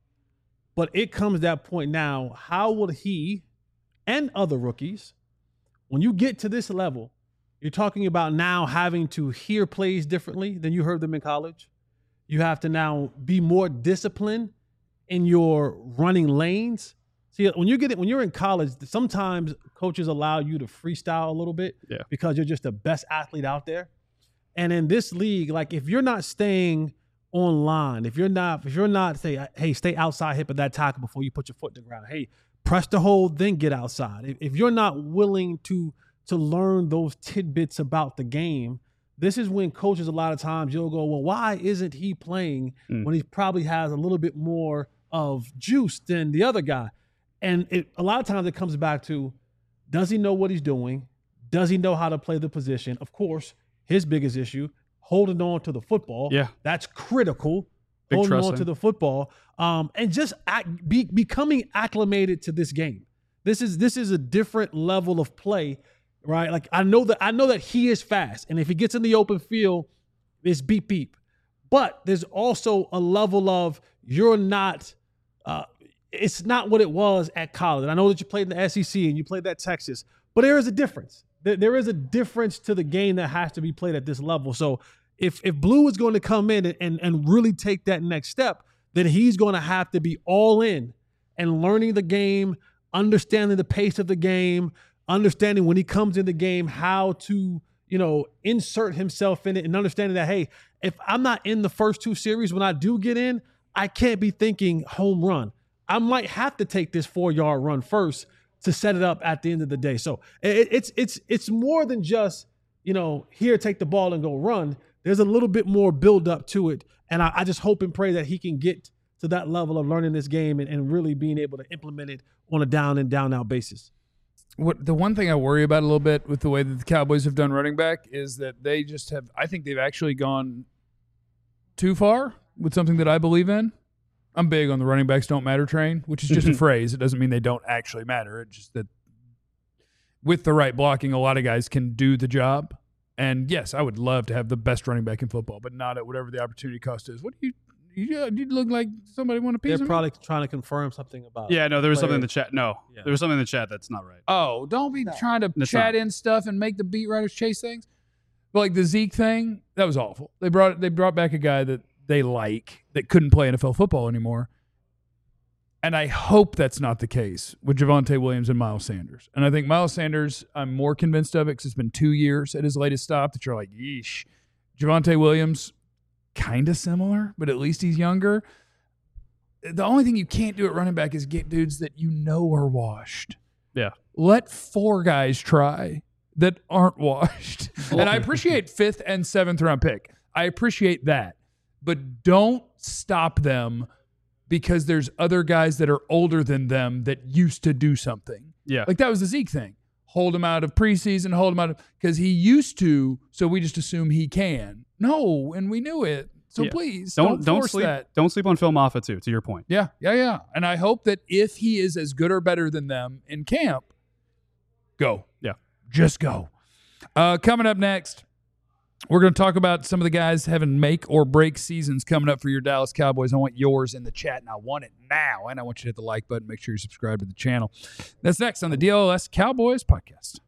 [SPEAKER 2] But it comes to that point now, how will he and other rookies, when you get to this level, you're talking about now having to hear plays differently than you heard them in college. You have to now be more disciplined in your running lanes. See, when you get it, when you're in college, sometimes coaches allow you to freestyle a little bit
[SPEAKER 5] yeah.
[SPEAKER 2] because you're just the best athlete out there. And in this league, like if you're not staying online, if you're not, if you're not say, hey, stay outside hip of that tackle before you put your foot in the ground. Hey, press the hold, then get outside. If, if you're not willing to to learn those tidbits about the game, this is when coaches a lot of times you'll go, well, why isn't he playing mm. when he probably has a little bit more of juice than the other guy? And it, a lot of times it comes back to, does he know what he's doing? Does he know how to play the position? Of course, his biggest issue, holding on to the football.
[SPEAKER 5] Yeah.
[SPEAKER 2] That's critical.
[SPEAKER 5] Big
[SPEAKER 2] holding
[SPEAKER 5] trust
[SPEAKER 2] on
[SPEAKER 5] him.
[SPEAKER 2] to the football. Um, and just act, be, becoming acclimated to this game. This is this is a different level of play, right? Like I know that I know that he is fast. And if he gets in the open field, it's beep beep. But there's also a level of you're not uh, it's not what it was at college. And I know that you played in the S E C and you played at Texas, but there is a difference. There, there is a difference to the game that has to be played at this level. So if if Blue is going to come in and, and, and really take that next step, then he's going to have to be all in and learning the game, understanding the pace of the game, understanding when he comes in the game how to, you know, insert himself in it, and understanding that, hey, if I'm not in the first two series, when I do get in, I can't be thinking home run. I might have to take this four-yard run first to set it up at the end of the day. So it, it's it's it's more than just, you know, here, take the ball and go run. There's a little bit more build up to it. And I, I just hope and pray that he can get to that level of learning this game and, and really being able to implement it on a down and down out basis.
[SPEAKER 1] What the one thing I worry about a little bit with the way that the Cowboys have done running back is that they just have, I think they've actually gone too far with something that I believe in. I'm big on the running backs don't matter train, which is just a phrase. It doesn't mean they don't actually matter. It's just that with the right blocking, a lot of guys can do the job. And yes, I would love to have the best running back in football, but not at whatever the opportunity cost is. What do you, you, you look like somebody want to piece
[SPEAKER 2] They're
[SPEAKER 1] of me?
[SPEAKER 2] probably trying to confirm something about.
[SPEAKER 5] Yeah, no, there was
[SPEAKER 2] player.
[SPEAKER 5] something in the chat. No,
[SPEAKER 2] Yeah.
[SPEAKER 5] there was something in the chat that's not right.
[SPEAKER 1] Oh, don't be trying to
[SPEAKER 5] That's
[SPEAKER 1] chat
[SPEAKER 5] not.
[SPEAKER 1] in stuff and make the beat writers chase things. But like the Zeke thing, that was awful. They brought they brought back a guy that they like that couldn't play N F L football anymore. And I hope that's not the case with Javonte Williams and Miles Sanders. And I think Miles Sanders, I'm more convinced of it because it's been two years at his latest stop that you're like, yeesh. Javonte Williams, kind of similar, but at least he's younger. The only thing you can't do at running back is get dudes that you know are washed.
[SPEAKER 5] Yeah.
[SPEAKER 1] Let four guys try that aren't washed. And I appreciate fifth and seventh round pick. I appreciate that. But don't stop them because there's other guys that are older than them that used to do something.
[SPEAKER 5] Yeah.
[SPEAKER 1] Like that was the Zeke thing. Hold him out of preseason, hold him out of because he used to, so we just assume he can. No, and we knew it. So
[SPEAKER 5] Yeah.
[SPEAKER 1] please
[SPEAKER 5] Don't
[SPEAKER 1] don't,
[SPEAKER 5] don't
[SPEAKER 1] force
[SPEAKER 5] sleep.
[SPEAKER 1] that.
[SPEAKER 5] Don't sleep on Phil Moffitt too. To your point.
[SPEAKER 1] Yeah, yeah, yeah. And I hope that if he is as good or better than them in camp, go.
[SPEAKER 5] Yeah.
[SPEAKER 1] Just go. Uh, coming up next, we're going to talk about some of the guys having make or break seasons coming up for your Dallas Cowboys. I want yours in the chat, and I want it now. And I want you to hit the like button. Make sure you subscribe to the channel. That's next on the D L S Cowboys podcast.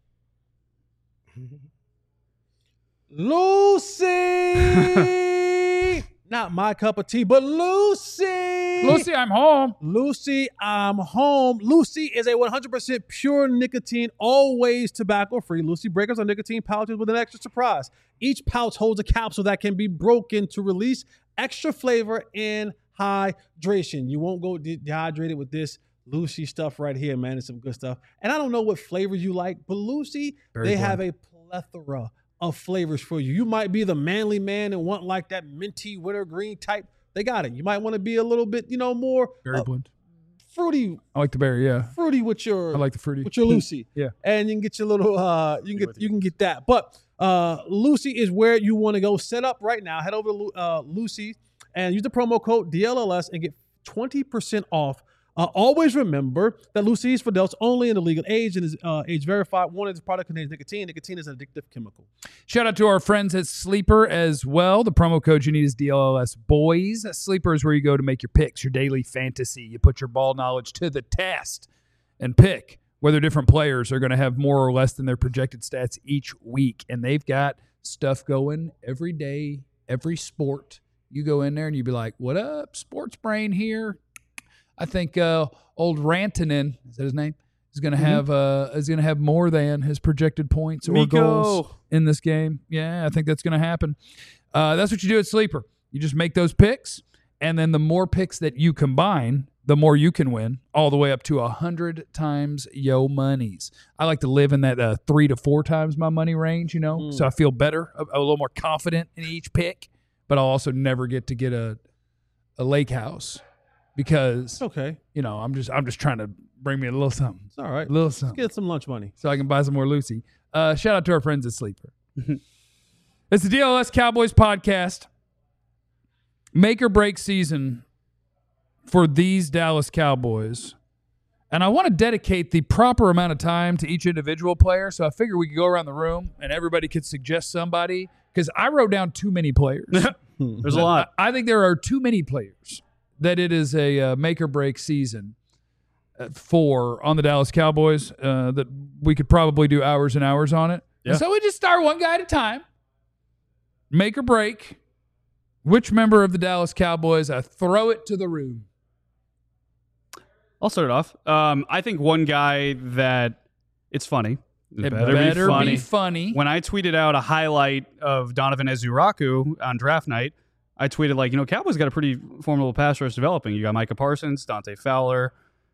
[SPEAKER 2] Lucy! Not my cup of tea, but Lucy!
[SPEAKER 1] Lucy, I'm home.
[SPEAKER 2] Lucy, I'm home. Lucy is a one hundred percent pure nicotine, always tobacco-free. Lucy breakers are nicotine pouches with an extra surprise. Each pouch holds a capsule that can be broken to release extra flavor and hydration. You won't go de- dehydrated with this. Lucy stuff right here, man. It's some good stuff. And I don't know what flavors you like, but Lucy,
[SPEAKER 1] Very
[SPEAKER 2] they
[SPEAKER 1] bland.
[SPEAKER 2] have a plethora of flavors for you. You might be the manly man and want like that minty wintergreen type. They got it. You might want to be a little bit, you know, more
[SPEAKER 1] Berry
[SPEAKER 2] uh,
[SPEAKER 1] blend.
[SPEAKER 2] fruity,
[SPEAKER 1] I like the berry. Yeah,
[SPEAKER 2] fruity with your
[SPEAKER 1] I like the fruity.
[SPEAKER 2] with your Lucy.
[SPEAKER 1] Yeah.
[SPEAKER 2] And you can get your little uh you can get
[SPEAKER 5] with
[SPEAKER 2] you can get that. But uh Lucy is where you want to go. Set up right now. Head over to Lu- uh Lucy and use the promo code D L L S and get twenty percent off. Uh, always remember that Lucy is for adults only in the legal age and is uh, age verified. One of this product contains nicotine. Nicotine is an addictive chemical.
[SPEAKER 1] Shout out to our friends at Sleeper as well. The promo code you need is D L L S Boys. Sleeper is where you go to make your picks, your daily fantasy. You put your ball knowledge to the test and pick whether different players are going to have more or less than their projected stats each week. And they've got stuff going every day, every sport. You go in there and you be like, what up, sports brain here? I think uh, old Rantanen, is that his name? Is going to
[SPEAKER 2] Mm-hmm.
[SPEAKER 1] have uh, is going to have more than his projected points or
[SPEAKER 5] Miko.
[SPEAKER 1] goals in this game. Yeah, I think that's going to happen. Uh, that's what you do at Sleeper. You just make those picks, and then the more picks that you combine, the more you can win, all the way up to a hundred times yo monies. I like to live in that uh, three to four times my money range, you know,
[SPEAKER 2] Mm.
[SPEAKER 1] so I feel better, a, a little more confident in each pick. But I'll also never get to get a a lake house because
[SPEAKER 2] Okay.
[SPEAKER 1] you know I'm just I'm just trying to bring me a little something,
[SPEAKER 2] It's all right.
[SPEAKER 1] a little
[SPEAKER 2] Let's
[SPEAKER 1] something,
[SPEAKER 2] get some lunch money.
[SPEAKER 1] so I can buy some more Lucy. Uh, shout out to our friends at Sleeper. It's the D L S Cowboys podcast. Make or break season for these Dallas Cowboys. And I want to dedicate the proper amount of time to each individual player. So I figure we could go around the room and everybody could suggest somebody because I wrote down too many players.
[SPEAKER 5] There's a lot.
[SPEAKER 1] I I think there are too many players that it is a uh, make or break season uh, for on the Dallas Cowboys uh, that we could probably do hours and hours on it.
[SPEAKER 5] Yeah.
[SPEAKER 1] And so we just start one guy at a time. Make or break. Which member of the Dallas Cowboys? I throw it to the room.
[SPEAKER 5] I'll start it off. Um, I think one guy that it's funny.
[SPEAKER 1] It better, be funny.
[SPEAKER 5] When I tweeted out a highlight of Donovan Ezuraku on draft night, I tweeted like, you know, Cowboys got a pretty formidable pass rush developing. You got Micah Parsons, Dante Fowler,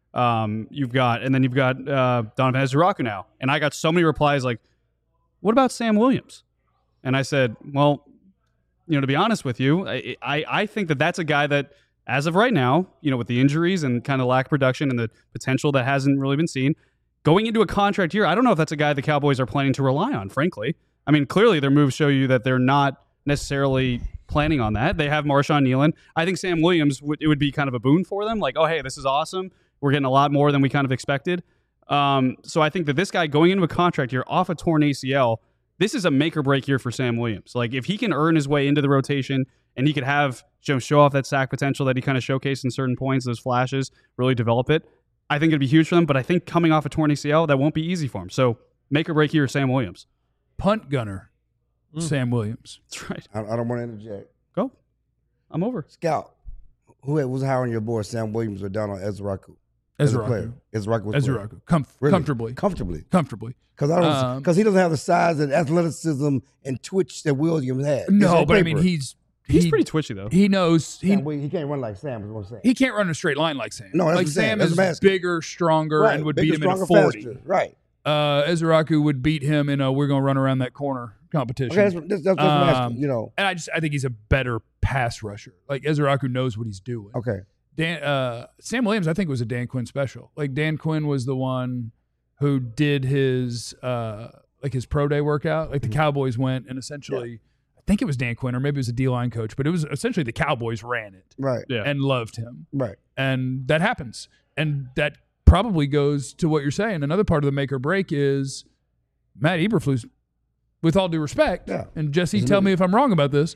[SPEAKER 5] um, you've got, and then you've got uh, Donovan Ezuraku now. And I got so many replies like, what about Sam Williams? And I said, well, you know, to be honest with you, I, I, I think that that's a guy that, as of right now, you know, with the injuries and kind of lack of production and the potential that hasn't really been seen, going into a contract year, I don't know if that's a guy the Cowboys are planning to rely on, frankly. I mean, clearly their moves show you that they're not necessarily planning on that. They have Marshawn Nealon. I think Sam Williams, would, it would be kind of a boon for them. Like, oh, hey, this is awesome. We're getting a lot more than we kind of expected. Um, so I think that this guy going into a contract year off a torn A C L, this is a make or break year for Sam Williams. Like, if he can earn his way into the rotation and he could have you know, show off that sack potential that he kind of showcased in certain points, those flashes, really develop it, I think it'd be huge for them. But I think coming off a torn A C L, that won't be easy for him. So make or break year, Sam Williams.
[SPEAKER 1] Punt gunner,
[SPEAKER 2] Mm.
[SPEAKER 1] Sam Williams.
[SPEAKER 5] That's right.
[SPEAKER 3] I, I don't want to interject.
[SPEAKER 5] Go. I'm over.
[SPEAKER 3] Scout, who was higher on your board, Sam Williams or Donald Ezraku? As a player.
[SPEAKER 1] Ezraku.
[SPEAKER 3] Ezraku was player.
[SPEAKER 1] Ezraku. Com-
[SPEAKER 3] Really?
[SPEAKER 1] Comfortably.
[SPEAKER 3] Comfortably.
[SPEAKER 1] Comfortably.
[SPEAKER 3] Because I don't
[SPEAKER 1] Um,
[SPEAKER 3] because he doesn't have the size and athleticism and twitch that Williams had. It's
[SPEAKER 1] No,
[SPEAKER 3] on
[SPEAKER 1] but I mean,
[SPEAKER 3] paper.
[SPEAKER 1] he's
[SPEAKER 5] He's
[SPEAKER 1] he,
[SPEAKER 5] pretty twitchy, though.
[SPEAKER 1] He knows he
[SPEAKER 3] Sam Williams, he can't run like Sam. Is what I'm saying.
[SPEAKER 1] he can't run a straight line like Sam.
[SPEAKER 3] No, that's
[SPEAKER 1] like
[SPEAKER 3] what I'm saying.
[SPEAKER 1] Sam
[SPEAKER 3] That's
[SPEAKER 1] is
[SPEAKER 3] what I'm asking.
[SPEAKER 1] bigger, stronger,
[SPEAKER 3] Right.
[SPEAKER 1] and would
[SPEAKER 3] Bigger,
[SPEAKER 1] beat him in a
[SPEAKER 3] stronger,
[SPEAKER 1] forty.
[SPEAKER 3] faster. Right.
[SPEAKER 1] Uh, Ezraku would beat him in a we're gonna run around that corner competition.
[SPEAKER 3] Okay, that's, that's, that's what I'm
[SPEAKER 1] Um,
[SPEAKER 3] asking. You know.
[SPEAKER 1] And I just I think he's a better pass rusher. Like Ezraku knows what he's doing.
[SPEAKER 3] Okay.
[SPEAKER 1] Dan uh, Sam Williams, I think, was a Dan Quinn special. Like Dan Quinn was the one who did his uh, like his pro day workout. Like the Cowboys went and essentially, I think it was Dan Quinn or maybe it was a D line coach, but it was essentially the Cowboys ran it
[SPEAKER 3] Right.
[SPEAKER 5] Yeah.
[SPEAKER 1] and loved him,
[SPEAKER 3] Right.
[SPEAKER 1] and that happens, and that probably goes to what you're saying. Another part of the make or break is Matt Eberflus, with all due respect,
[SPEAKER 3] Yeah.
[SPEAKER 1] and Jesse,
[SPEAKER 3] Isn't
[SPEAKER 1] tell
[SPEAKER 3] it-
[SPEAKER 1] me if I'm wrong about this.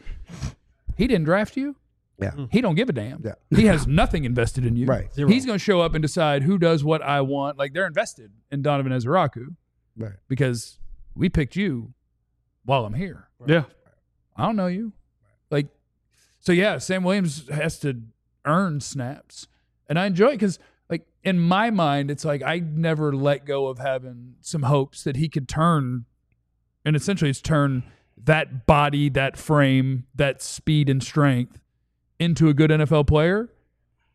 [SPEAKER 1] He didn't draft you.
[SPEAKER 3] Yeah.
[SPEAKER 1] He don't give a damn.
[SPEAKER 3] Yeah.
[SPEAKER 1] He has nothing invested in you.
[SPEAKER 3] Right.
[SPEAKER 2] Zero.
[SPEAKER 1] He's going to show up and decide who does what I want. Like they're invested in Donovan Ezraku
[SPEAKER 3] Right.
[SPEAKER 1] because we picked you while I'm here.
[SPEAKER 5] Yeah.
[SPEAKER 1] I don't know you. Like, so yeah, Sam Williams has to earn snaps. And I enjoy it because, like, in my mind, it's like I never let go of having some hopes that he could turn, and essentially it's turn that body, that frame, that speed and strength into a good N F L player.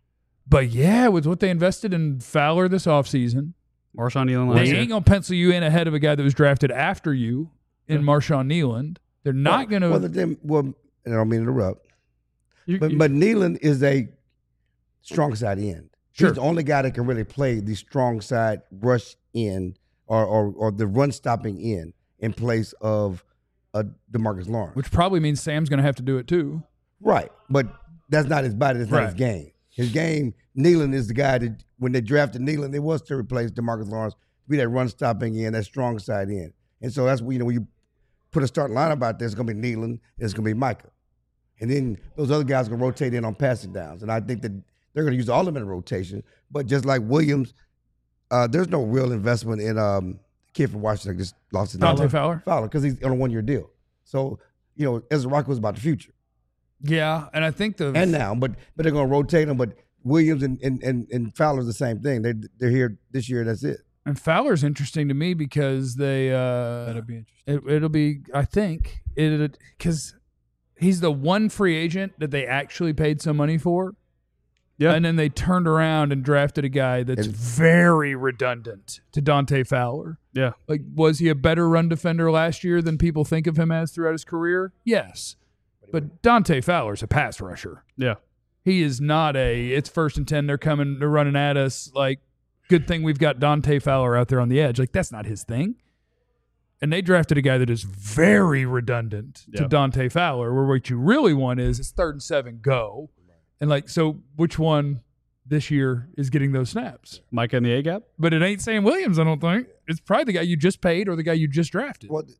[SPEAKER 1] But yeah, with what they invested in Fowler this offseason,
[SPEAKER 5] Marshawn Nealon
[SPEAKER 1] they
[SPEAKER 5] last year.
[SPEAKER 1] ain't going to pencil you in ahead of a guy that was drafted after you in Marshawn Nealon. They're not going to.
[SPEAKER 3] Well, then, well, and I don't mean to interrupt,
[SPEAKER 5] You-
[SPEAKER 3] but
[SPEAKER 5] you-
[SPEAKER 3] but Nealon is a strong side end.
[SPEAKER 1] Sure.
[SPEAKER 3] He's the only guy that can really play the strong side rush end or or, or the run stopping end in place of uh, DeMarcus Lawrence.
[SPEAKER 1] Which probably means Sam's going to have to do it too.
[SPEAKER 3] Right, but that's not his body. That's not his
[SPEAKER 1] Right.
[SPEAKER 3] game. His game, Nealon is the guy that when they drafted Nealon, it was to replace DeMarcus Lawrence, be that run stopping end, that strong side end. And so that's when, you know, when you put a starting lineup out there, it's going to be Nealon, it's going to be Micah. And then those other guys are going to rotate in on passing downs. And I think that they're going to use all of them in a rotation. But just like Williams, uh, there's no real investment in um, the kid from Washington that just lost his
[SPEAKER 1] Dante
[SPEAKER 3] name.
[SPEAKER 1] Fowler?
[SPEAKER 3] Fowler, because he's on a one-year deal. So, you know, Ezra Rock was about the future.
[SPEAKER 1] Yeah, and I think the
[SPEAKER 3] And now, but but they're going to rotate them. But Williams and, and, and, and Fowler's the same thing. They, they're here this year, that's it.
[SPEAKER 1] and Fowler's interesting to me because they uh,
[SPEAKER 2] That'll be interesting.
[SPEAKER 1] It, it'll be, I think, it because he's the one free agent that they actually paid some money for.
[SPEAKER 5] Yeah.
[SPEAKER 1] And then they turned around and drafted a guy that's
[SPEAKER 3] And-
[SPEAKER 1] very redundant to Dante Fowler.
[SPEAKER 5] Yeah.
[SPEAKER 1] Like, was he a better run defender last year than people think of him as throughout his career? Yes. But Dante Fowler's a pass rusher.
[SPEAKER 5] Yeah.
[SPEAKER 1] He is not a, it's first and ten, they're coming, they're running at us. Like, good thing we've got Dante Fowler out there on the edge. Like, that's not his thing. And they drafted a guy that is very redundant to
[SPEAKER 5] Yeah.
[SPEAKER 1] Dante Fowler, where what you really want is it's third and seven, go. And, like, so which one this year is getting those snaps?
[SPEAKER 5] Micah in the A gap.
[SPEAKER 1] But it ain't Sam Williams, I don't think. It's probably the guy you just paid or the guy you just drafted.
[SPEAKER 3] Well,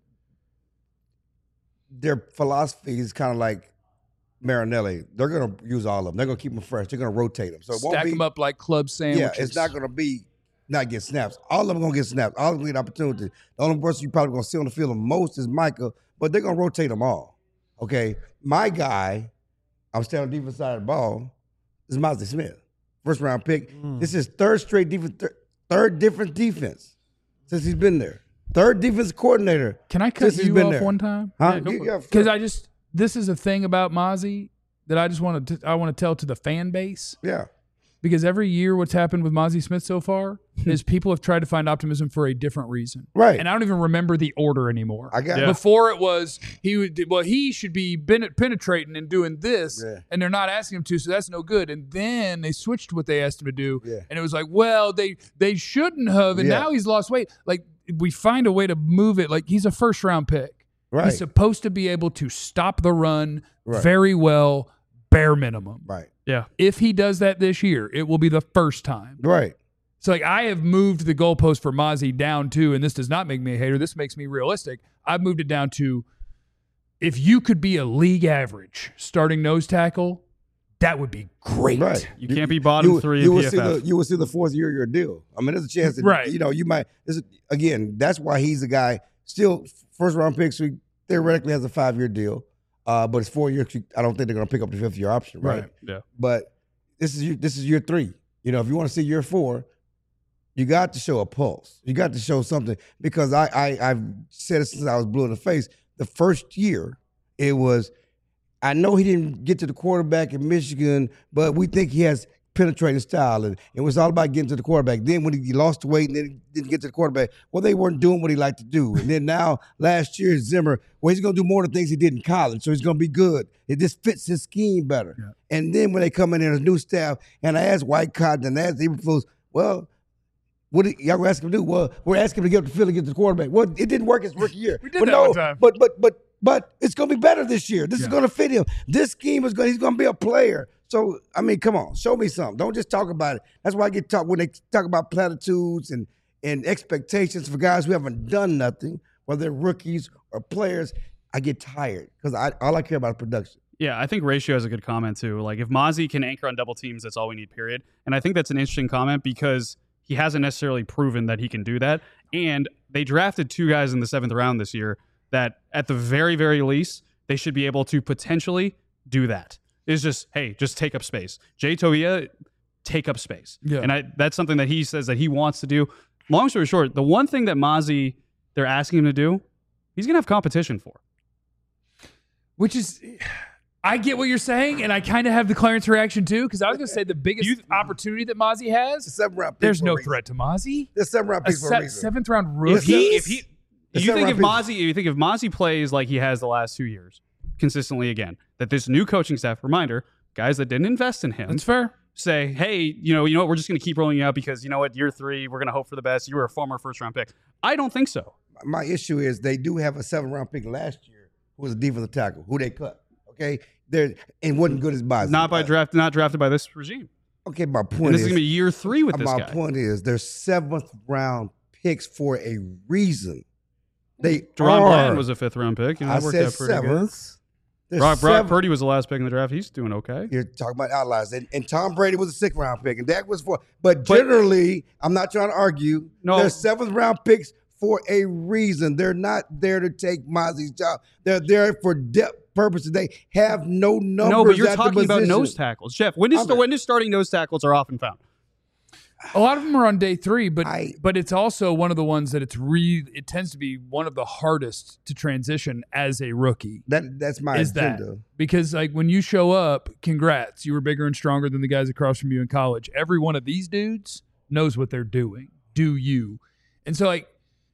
[SPEAKER 3] their philosophy is kind of like Marinelli. They're going to use all of them. They're going to keep them fresh. They're going to rotate them. So it won't
[SPEAKER 1] Stack
[SPEAKER 3] be,
[SPEAKER 1] them up like club sandwiches.
[SPEAKER 3] yeah, it's not going to be not get snaps. All of them going to get snaps. All of them get opportunity. The only person you probably going to see on the field the most is Micah, but they're going to rotate them all. Okay, my guy, I'm staying on the defense side of the ball, is Mozzie Smith. First round pick. This is third straight defense, third, third different defense since he's been there. Third defense coordinator.
[SPEAKER 1] Can I cut
[SPEAKER 3] since he's
[SPEAKER 1] you
[SPEAKER 3] been
[SPEAKER 1] off
[SPEAKER 3] there.
[SPEAKER 1] one time?
[SPEAKER 3] Huh?
[SPEAKER 5] Yeah, go for it.
[SPEAKER 3] Yeah,
[SPEAKER 1] Because I just, this is a thing about Mozzie that I just want to, I want to tell to the fan base.
[SPEAKER 3] yeah.
[SPEAKER 1] Because every year what's happened with Mozzie Smith so far is people have tried to find optimism for a different reason.
[SPEAKER 3] Right.
[SPEAKER 1] And I don't even remember the order anymore.
[SPEAKER 3] I got
[SPEAKER 5] Yeah.
[SPEAKER 1] Before it was, he would, well, he should be ben- penetrating and doing this,
[SPEAKER 3] Yeah.
[SPEAKER 1] and they're not asking him to, so that's no good. And then they switched what they asked him to do,
[SPEAKER 3] Yeah.
[SPEAKER 1] and it was like, well, they they shouldn't have, and
[SPEAKER 3] Yeah.
[SPEAKER 1] now he's lost weight. Like, we find a way to move it. Like, he's a first round pick.
[SPEAKER 3] Right.
[SPEAKER 1] He's supposed to be able to stop the run
[SPEAKER 3] Right.
[SPEAKER 1] very well, bare minimum.
[SPEAKER 3] Right.
[SPEAKER 5] Yeah.
[SPEAKER 1] If he does that this year, it will be the first time.
[SPEAKER 3] Right.
[SPEAKER 1] So, like, I have moved the goalpost for Mozzie down to, and this does not make me a hater, this makes me realistic. I've moved it down to if you could be a league average starting nose tackle, that would be great.
[SPEAKER 3] Right.
[SPEAKER 5] You can't be bottom
[SPEAKER 3] you,
[SPEAKER 5] three
[SPEAKER 3] you
[SPEAKER 5] in
[SPEAKER 3] will
[SPEAKER 5] P F
[SPEAKER 3] see
[SPEAKER 5] F.
[SPEAKER 3] the you will see the fourth year of your deal. I mean, there's a chance that
[SPEAKER 1] Right.
[SPEAKER 3] you know you might. This is, again, that's why he's a guy still first round pick. So he theoretically has a five year deal, uh, but it's four years. I don't think they're going to pick up the fifth year option, right?
[SPEAKER 1] Right.
[SPEAKER 5] Yeah.
[SPEAKER 3] But this is your, this is year three. You know, if you want to see year four, you got to show a pulse. You got to show something because I, I I've said it since I was blue in the face. The first year, it was. I know he didn't get to the quarterback in Michigan, but we think he has penetrating style, and it was all about getting to the quarterback. Then when he lost the weight and then he didn't get to the quarterback, well, they weren't doing what he liked to do. And then now last year, Zimmer, well, he's going to do more of the things he did in college, so he's going to be good. It just fits his scheme better.
[SPEAKER 1] Yeah.
[SPEAKER 3] And then when they come in as new staff, and I asked White Cotton and I asked Eberflus, well, what did y'all ask him to do? Well, we're asking him to get up the field and get to the quarterback. Well, it didn't work his rookie year.
[SPEAKER 1] We did
[SPEAKER 3] but
[SPEAKER 1] that
[SPEAKER 3] no,
[SPEAKER 1] one time.
[SPEAKER 3] But but but but it's gonna be better this year. This is
[SPEAKER 1] Yeah.
[SPEAKER 3] gonna fit him. This scheme is gonna he's gonna be a player. So I mean, come on, show me something. Don't just talk about it. That's why I get talk when they talk about platitudes and and expectations for guys who haven't done nothing, whether they're rookies or players. I get tired because I all I care about is production.
[SPEAKER 5] Yeah, I think Ratio has a good comment too. Like if Mozzie can anchor on double teams, that's all we need, period. And I think that's an interesting comment because he hasn't necessarily proven that he can do that. And they drafted two guys in the seventh round this year that at the very, very least, they should be able to potentially do that. It's just, hey, just take up space. Jay Toia, take up space.
[SPEAKER 1] Yeah.
[SPEAKER 5] And I, that's something that he says that he wants to do. Long story short, the one thing that Mozzie, they're asking him to do, he's going to have competition for.
[SPEAKER 1] Which is, I get what you're saying, and I kind of have the Clarence reaction too, because I was going to say the biggest you, opportunity that Mozzie has,
[SPEAKER 3] seven round pick
[SPEAKER 1] there's no
[SPEAKER 3] reason.
[SPEAKER 1] threat to Mozzie.
[SPEAKER 3] There's seven round picks
[SPEAKER 1] a
[SPEAKER 3] for a
[SPEAKER 1] se-
[SPEAKER 3] reason.
[SPEAKER 1] Seventh round rookie.
[SPEAKER 5] If he, if he,
[SPEAKER 3] The
[SPEAKER 5] you think if
[SPEAKER 3] seven
[SPEAKER 5] Mozzie, you think if Mozzie plays like he has the last two years consistently again, that this new coaching staff, reminder, guys that didn't invest in him,
[SPEAKER 1] That's fair.
[SPEAKER 5] say, hey, you know, you know what, we're just going to keep rolling you out because you know what, year three, we're going to hope for the best. You were a former first round pick. I don't think so.
[SPEAKER 3] My issue is they do have a seven round pick last year who was a defensive tackle who they cut. Okay, they're and wasn't good as Mozzie.
[SPEAKER 5] Not by draft, not drafted by this regime.
[SPEAKER 3] Okay, my point
[SPEAKER 5] And this
[SPEAKER 3] is,
[SPEAKER 5] is going to be year three with this
[SPEAKER 3] my
[SPEAKER 5] guy.
[SPEAKER 3] point is, they're seventh round picks for a reason. They
[SPEAKER 5] Deron
[SPEAKER 3] are.
[SPEAKER 5] Bland was a fifth round pick. You know,
[SPEAKER 3] I
[SPEAKER 5] that worked
[SPEAKER 3] said
[SPEAKER 5] out pretty
[SPEAKER 3] seventh.
[SPEAKER 5] good.
[SPEAKER 3] They're
[SPEAKER 5] Brock, Brock
[SPEAKER 3] seventh.
[SPEAKER 5] Purdy was the last pick in the draft. He's doing okay.
[SPEAKER 3] You're talking about outliers, and, and Tom Brady was a sixth round pick, and Dak was four. But generally, I'm not trying to argue.
[SPEAKER 5] No.
[SPEAKER 3] They're seventh round picks for a reason. They're not there to take Mozzie's job. They're there for depth purposes. They have no numbers.
[SPEAKER 5] No, but you're
[SPEAKER 3] at the
[SPEAKER 5] talking about
[SPEAKER 3] position.
[SPEAKER 5] nose tackles. Jeff, when is,
[SPEAKER 3] I'm-
[SPEAKER 5] when is starting nose tackles are often found?
[SPEAKER 1] A lot of them are on day three, but
[SPEAKER 3] I-
[SPEAKER 1] but it's also one of the ones that it's re. It tends to be one of the hardest to transition as a rookie.
[SPEAKER 3] That that's my
[SPEAKER 1] is that
[SPEAKER 3] agenda.
[SPEAKER 1] because like when you show up, congrats, you were bigger and stronger than the guys across from you in college. Every one of these dudes knows what they're doing. Do you? And so like,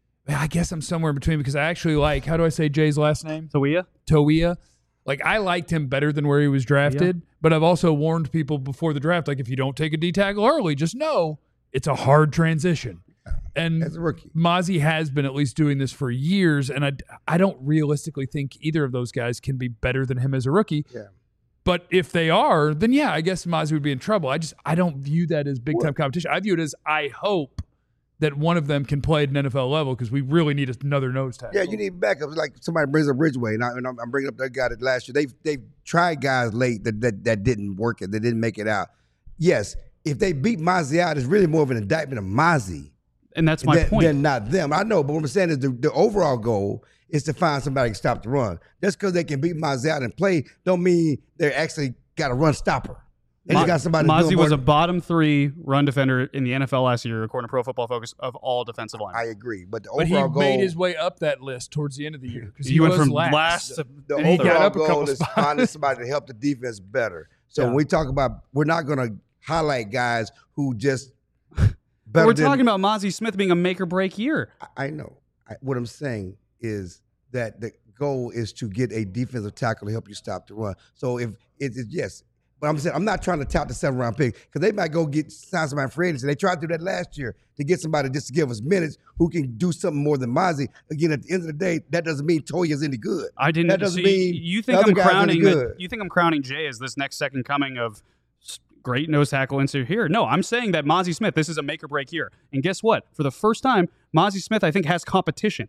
[SPEAKER 1] I guess I'm somewhere in between because I actually like, how do I say Jay's last name?
[SPEAKER 5] Toia?
[SPEAKER 1] Toia. Like I liked him better than where he was drafted, but I've also warned people before the draft, like if you don't take a D tackle early, just know it's a hard transition. And
[SPEAKER 3] As a rookie.
[SPEAKER 1] Mozzie has been at least doing this for years, and I, I don't realistically think either of those guys can be better than him as a rookie.
[SPEAKER 3] Yeah.
[SPEAKER 1] But if they are, then yeah, I guess Mozzie would be in trouble. I just I don't view that as big time competition. I view it as I hope that one of them can play at an N F L level because we really need another nose tackle.
[SPEAKER 3] Yeah, you need backups. Like somebody brings up Ridgeway, and, I, and I'm, I'm bringing up that guy that last year. They've they've tried guys late that that, that didn't work it. They didn't make it out. Yes, if they beat Mozzie out, it's really more of an indictment of Mozzie
[SPEAKER 5] And that's my
[SPEAKER 3] than,
[SPEAKER 5] point.
[SPEAKER 3] than not them. I know, but what I'm saying is the, the overall goal is to find somebody who can stop the run. Just because they can beat Mozzie out and play don't mean they're actually got a run stopper. They just got somebody
[SPEAKER 5] Mozzie
[SPEAKER 3] doing
[SPEAKER 5] was
[SPEAKER 3] more-
[SPEAKER 5] a bottom three run defender in the N F L last year, according to Pro Football Focus, of all defensive linemen.
[SPEAKER 3] I agree, but the
[SPEAKER 1] But he
[SPEAKER 3] overall goal
[SPEAKER 1] made his way up that list towards the end of the year because
[SPEAKER 5] he,
[SPEAKER 1] he,
[SPEAKER 5] went
[SPEAKER 1] was
[SPEAKER 5] from
[SPEAKER 1] last.
[SPEAKER 5] last, to
[SPEAKER 3] the
[SPEAKER 1] And he got
[SPEAKER 3] overall
[SPEAKER 1] up a couple
[SPEAKER 3] goal is
[SPEAKER 1] spots.
[SPEAKER 3] finding somebody to help the defense better. So
[SPEAKER 1] Yeah.
[SPEAKER 3] when we talk about, we're not going to highlight guys who just
[SPEAKER 5] But
[SPEAKER 3] better
[SPEAKER 5] we're
[SPEAKER 3] than,
[SPEAKER 5] talking about Mozzie Smith being a make or break year.
[SPEAKER 3] I I know. I, what I'm saying is that the goal is to get a defensive tackle to help you stop the run. So if it is yes, but I'm saying I'm not trying to tout the seven round pick because they might go get sign somebody free agency. They tried to do that last year to get somebody just to give us minutes who can do something more than Mozzie. Again, at the end of the day, that doesn't mean Toya's any good.
[SPEAKER 5] I didn't.
[SPEAKER 3] That doesn't
[SPEAKER 5] so
[SPEAKER 3] mean
[SPEAKER 5] you, you
[SPEAKER 3] the
[SPEAKER 5] think
[SPEAKER 3] other
[SPEAKER 5] I'm
[SPEAKER 3] guys any
[SPEAKER 5] crowning
[SPEAKER 3] good.
[SPEAKER 5] that, you think I'm crowning Jay as this next second coming of s- great nose tackle insert here? No, I'm saying that Mozzie Smith, this is a make or break year. And guess what? For the first time, Mozzie Smith, I think, has competition.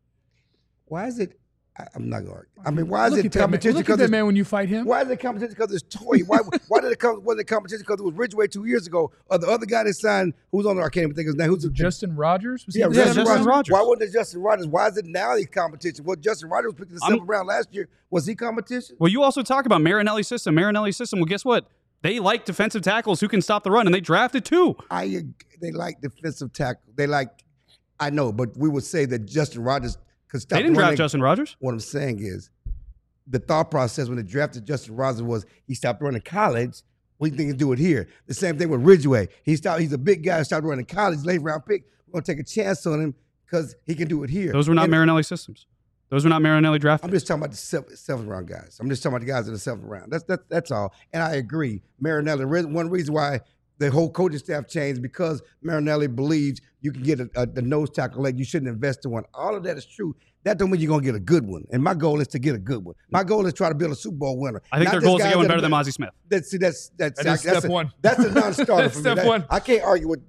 [SPEAKER 3] Why is it? I, I'm not going to argue. I mean, why is
[SPEAKER 1] Look
[SPEAKER 3] it
[SPEAKER 1] at that man.
[SPEAKER 3] competition?
[SPEAKER 1] Look at
[SPEAKER 3] Because
[SPEAKER 1] that
[SPEAKER 3] it's-
[SPEAKER 1] man when you fight him.
[SPEAKER 3] Why is it competition? Because it's Toy. Why? Why did it come? Wasn't it competition because it was Ridgeway two years ago, or the other guy that signed? Who's on there? I can't even think of his name. Who's the
[SPEAKER 1] Justin Rogers? Was he
[SPEAKER 3] Yeah,
[SPEAKER 1] the
[SPEAKER 3] Justin,
[SPEAKER 1] seventh
[SPEAKER 5] Justin
[SPEAKER 1] round?
[SPEAKER 5] Rogers.
[SPEAKER 3] Why wasn't it Justin Rogers? Why is it now the competition? Well, Justin Rogers was picked in the
[SPEAKER 5] I'm-
[SPEAKER 3] seventh round last year. Was he competition?
[SPEAKER 5] Well, you also talk about Marinelli's system. Marinelli's system. Well, guess what? They like defensive tackles who can stop the run, and they drafted two.
[SPEAKER 3] I ag- they like defensive tackle. They like. I know, but we would say that Justin Rogers could stop.
[SPEAKER 5] They didn't
[SPEAKER 3] the run.
[SPEAKER 5] draft Justin Rogers.
[SPEAKER 3] What I'm saying is, the thought process when they drafted Justin Rogers was he stopped running college. We think he can do it here. The same thing with Ridgeway. He stopped. He's a big guy. Stopped running college. Late round pick. We're gonna take a chance on him because he can do it here.
[SPEAKER 5] Those were not
[SPEAKER 3] And
[SPEAKER 5] Marinelli systems. Those were not Marinelli drafted.
[SPEAKER 3] I'm just talking about the seventh, seventh round guys. I'm just talking about the guys in the seventh round. That's that, that's all. And I agree. Marinelli. re- One reason why the whole coaching staff changed because Marinelli believes you can get a, a, the nose tackle leg. You shouldn't invest in one. All of that is true. That don't mean you're gonna get a good one. And my goal is to get a good one. My goal is to try to build a Super Bowl winner.
[SPEAKER 5] I think
[SPEAKER 3] Not
[SPEAKER 5] their
[SPEAKER 3] just
[SPEAKER 5] goal is to
[SPEAKER 3] guys
[SPEAKER 5] get one
[SPEAKER 3] that
[SPEAKER 5] better
[SPEAKER 3] are-
[SPEAKER 5] than Mozzie Smith.
[SPEAKER 3] That's see, that's that's
[SPEAKER 1] That is
[SPEAKER 3] that's
[SPEAKER 1] step
[SPEAKER 3] a,
[SPEAKER 1] one.
[SPEAKER 3] That's a non-starter for me.
[SPEAKER 1] Step
[SPEAKER 3] That-
[SPEAKER 1] one.
[SPEAKER 3] I can't argue with.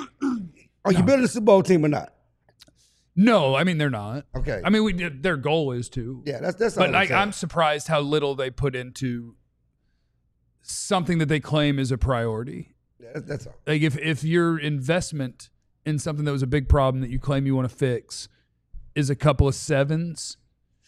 [SPEAKER 3] Are you building a Super Bowl team or not?
[SPEAKER 1] No, I mean they're not.
[SPEAKER 3] Okay.
[SPEAKER 1] I mean we their goal is to.
[SPEAKER 3] Yeah, that's that's. all
[SPEAKER 1] But
[SPEAKER 3] I'm
[SPEAKER 1] like
[SPEAKER 3] saying.
[SPEAKER 1] I'm surprised how little they put into something that they claim is a priority.
[SPEAKER 3] Yeah, that's, that's all.
[SPEAKER 1] Like if if your investment in something that was a big problem that you claim you want to fix is a couple of sevens,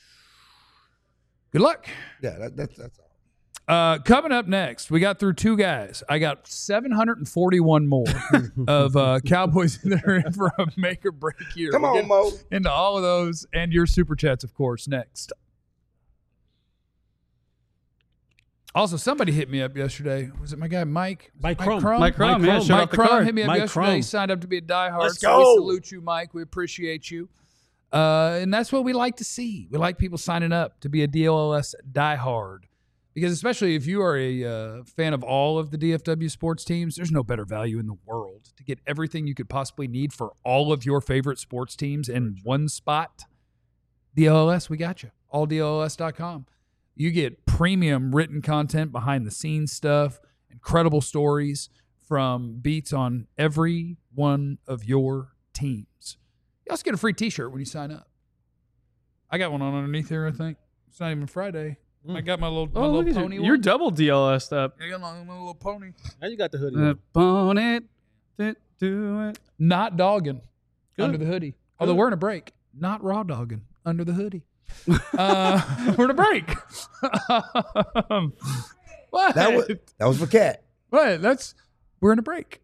[SPEAKER 1] good luck.
[SPEAKER 3] Yeah, that, that's that's all.
[SPEAKER 1] Uh, coming up next, we got through two guys. I got seven hundred forty-one more of uh, Cowboys that are in for a make or break year.
[SPEAKER 3] Come
[SPEAKER 1] We'll
[SPEAKER 3] on,
[SPEAKER 1] get
[SPEAKER 3] Mo.
[SPEAKER 1] into all of those and your super chats, of course, next. Also, somebody hit me up yesterday. Was it my guy Mike? Was
[SPEAKER 2] Mike
[SPEAKER 1] it
[SPEAKER 2] Crum.
[SPEAKER 1] Crum?
[SPEAKER 5] Mike Crum, yeah, showed
[SPEAKER 1] Mike
[SPEAKER 5] up the
[SPEAKER 1] Crum
[SPEAKER 5] card.
[SPEAKER 1] hit me up
[SPEAKER 2] Mike
[SPEAKER 1] yesterday.
[SPEAKER 2] Crum.
[SPEAKER 1] He signed up to be a diehard.
[SPEAKER 3] Let's
[SPEAKER 1] so we
[SPEAKER 3] go.
[SPEAKER 1] salute you, Mike. We appreciate you. Uh, and that's what we like to see. We like people signing up to be a D L L S diehard. Because especially if you are a uh, fan of all of the D F W sports teams, there's no better value in the world to get everything you could possibly need for all of your favorite sports teams in one spot. D L L S, we got you. all D L L S dot com. You get premium written content, behind the scenes stuff, incredible stories from beats on every one of your teams. You also get a free t-shirt when you sign up. I got one on underneath here, I think. It's not even Friday.
[SPEAKER 2] Mm.
[SPEAKER 1] I got my little, my
[SPEAKER 5] Oh,
[SPEAKER 1] little
[SPEAKER 5] look at
[SPEAKER 1] pony
[SPEAKER 5] you.
[SPEAKER 1] one.
[SPEAKER 5] You're double D L S up.
[SPEAKER 1] I got my, my little pony.
[SPEAKER 2] Now you got the hoodie.
[SPEAKER 5] The
[SPEAKER 2] on.
[SPEAKER 5] bonnet that do it.
[SPEAKER 1] Not dogging
[SPEAKER 2] Good.
[SPEAKER 1] under the hoodie. Although we're in a break. Not raw dogging under the hoodie. uh, we're in a break. um, what?
[SPEAKER 3] That was that was for Cat.
[SPEAKER 1] What? That's we're in a break.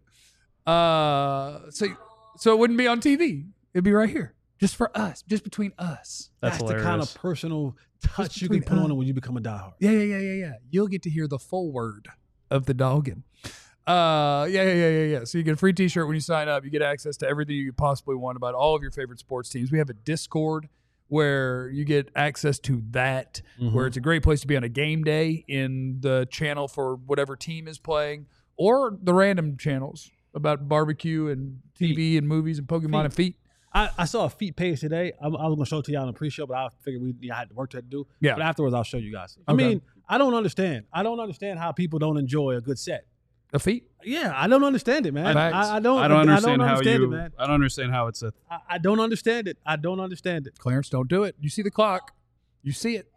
[SPEAKER 1] Uh, so so it wouldn't be on T V. It'd be right here, just for us, just between us.
[SPEAKER 5] That's,
[SPEAKER 2] That's the
[SPEAKER 5] hilarious.
[SPEAKER 2] kind of personal touch you
[SPEAKER 1] between
[SPEAKER 2] can put
[SPEAKER 1] us.
[SPEAKER 2] on it when you become a diehard.
[SPEAKER 1] Yeah, yeah, yeah, yeah, yeah. You'll get to hear the full word of the dogging. Uh, yeah, yeah, yeah, yeah, yeah. So you get a free T-shirt when you sign up. You get access to everything you could possibly want about all of your favorite sports teams. We have a Discord where you get access to that,
[SPEAKER 2] Mm-hmm.
[SPEAKER 1] where it's a great place to be on a game day in the channel for whatever team is playing, or the random channels about barbecue and T V and movies and Pokemon
[SPEAKER 2] Feet.
[SPEAKER 1] and feet.
[SPEAKER 2] I, I saw a feet page today. I, I was gonna show it to y'all in the pre-show, but I figured we yeah, I had work to do.
[SPEAKER 1] Yeah.
[SPEAKER 2] But afterwards, I'll show you guys. I
[SPEAKER 1] Okay.
[SPEAKER 2] mean, I don't understand. I don't understand how people don't enjoy a good set.
[SPEAKER 1] A feet?
[SPEAKER 2] Yeah, I don't understand it, man.
[SPEAKER 1] Facts.
[SPEAKER 2] I, I don't.
[SPEAKER 5] I don't understand,
[SPEAKER 2] I don't
[SPEAKER 5] how
[SPEAKER 2] understand
[SPEAKER 5] you.
[SPEAKER 2] it, man.
[SPEAKER 5] I don't understand how it's a.
[SPEAKER 2] I, I don't understand it. I don't understand it.
[SPEAKER 1] Clarence, don't do it. You see the clock. You see it.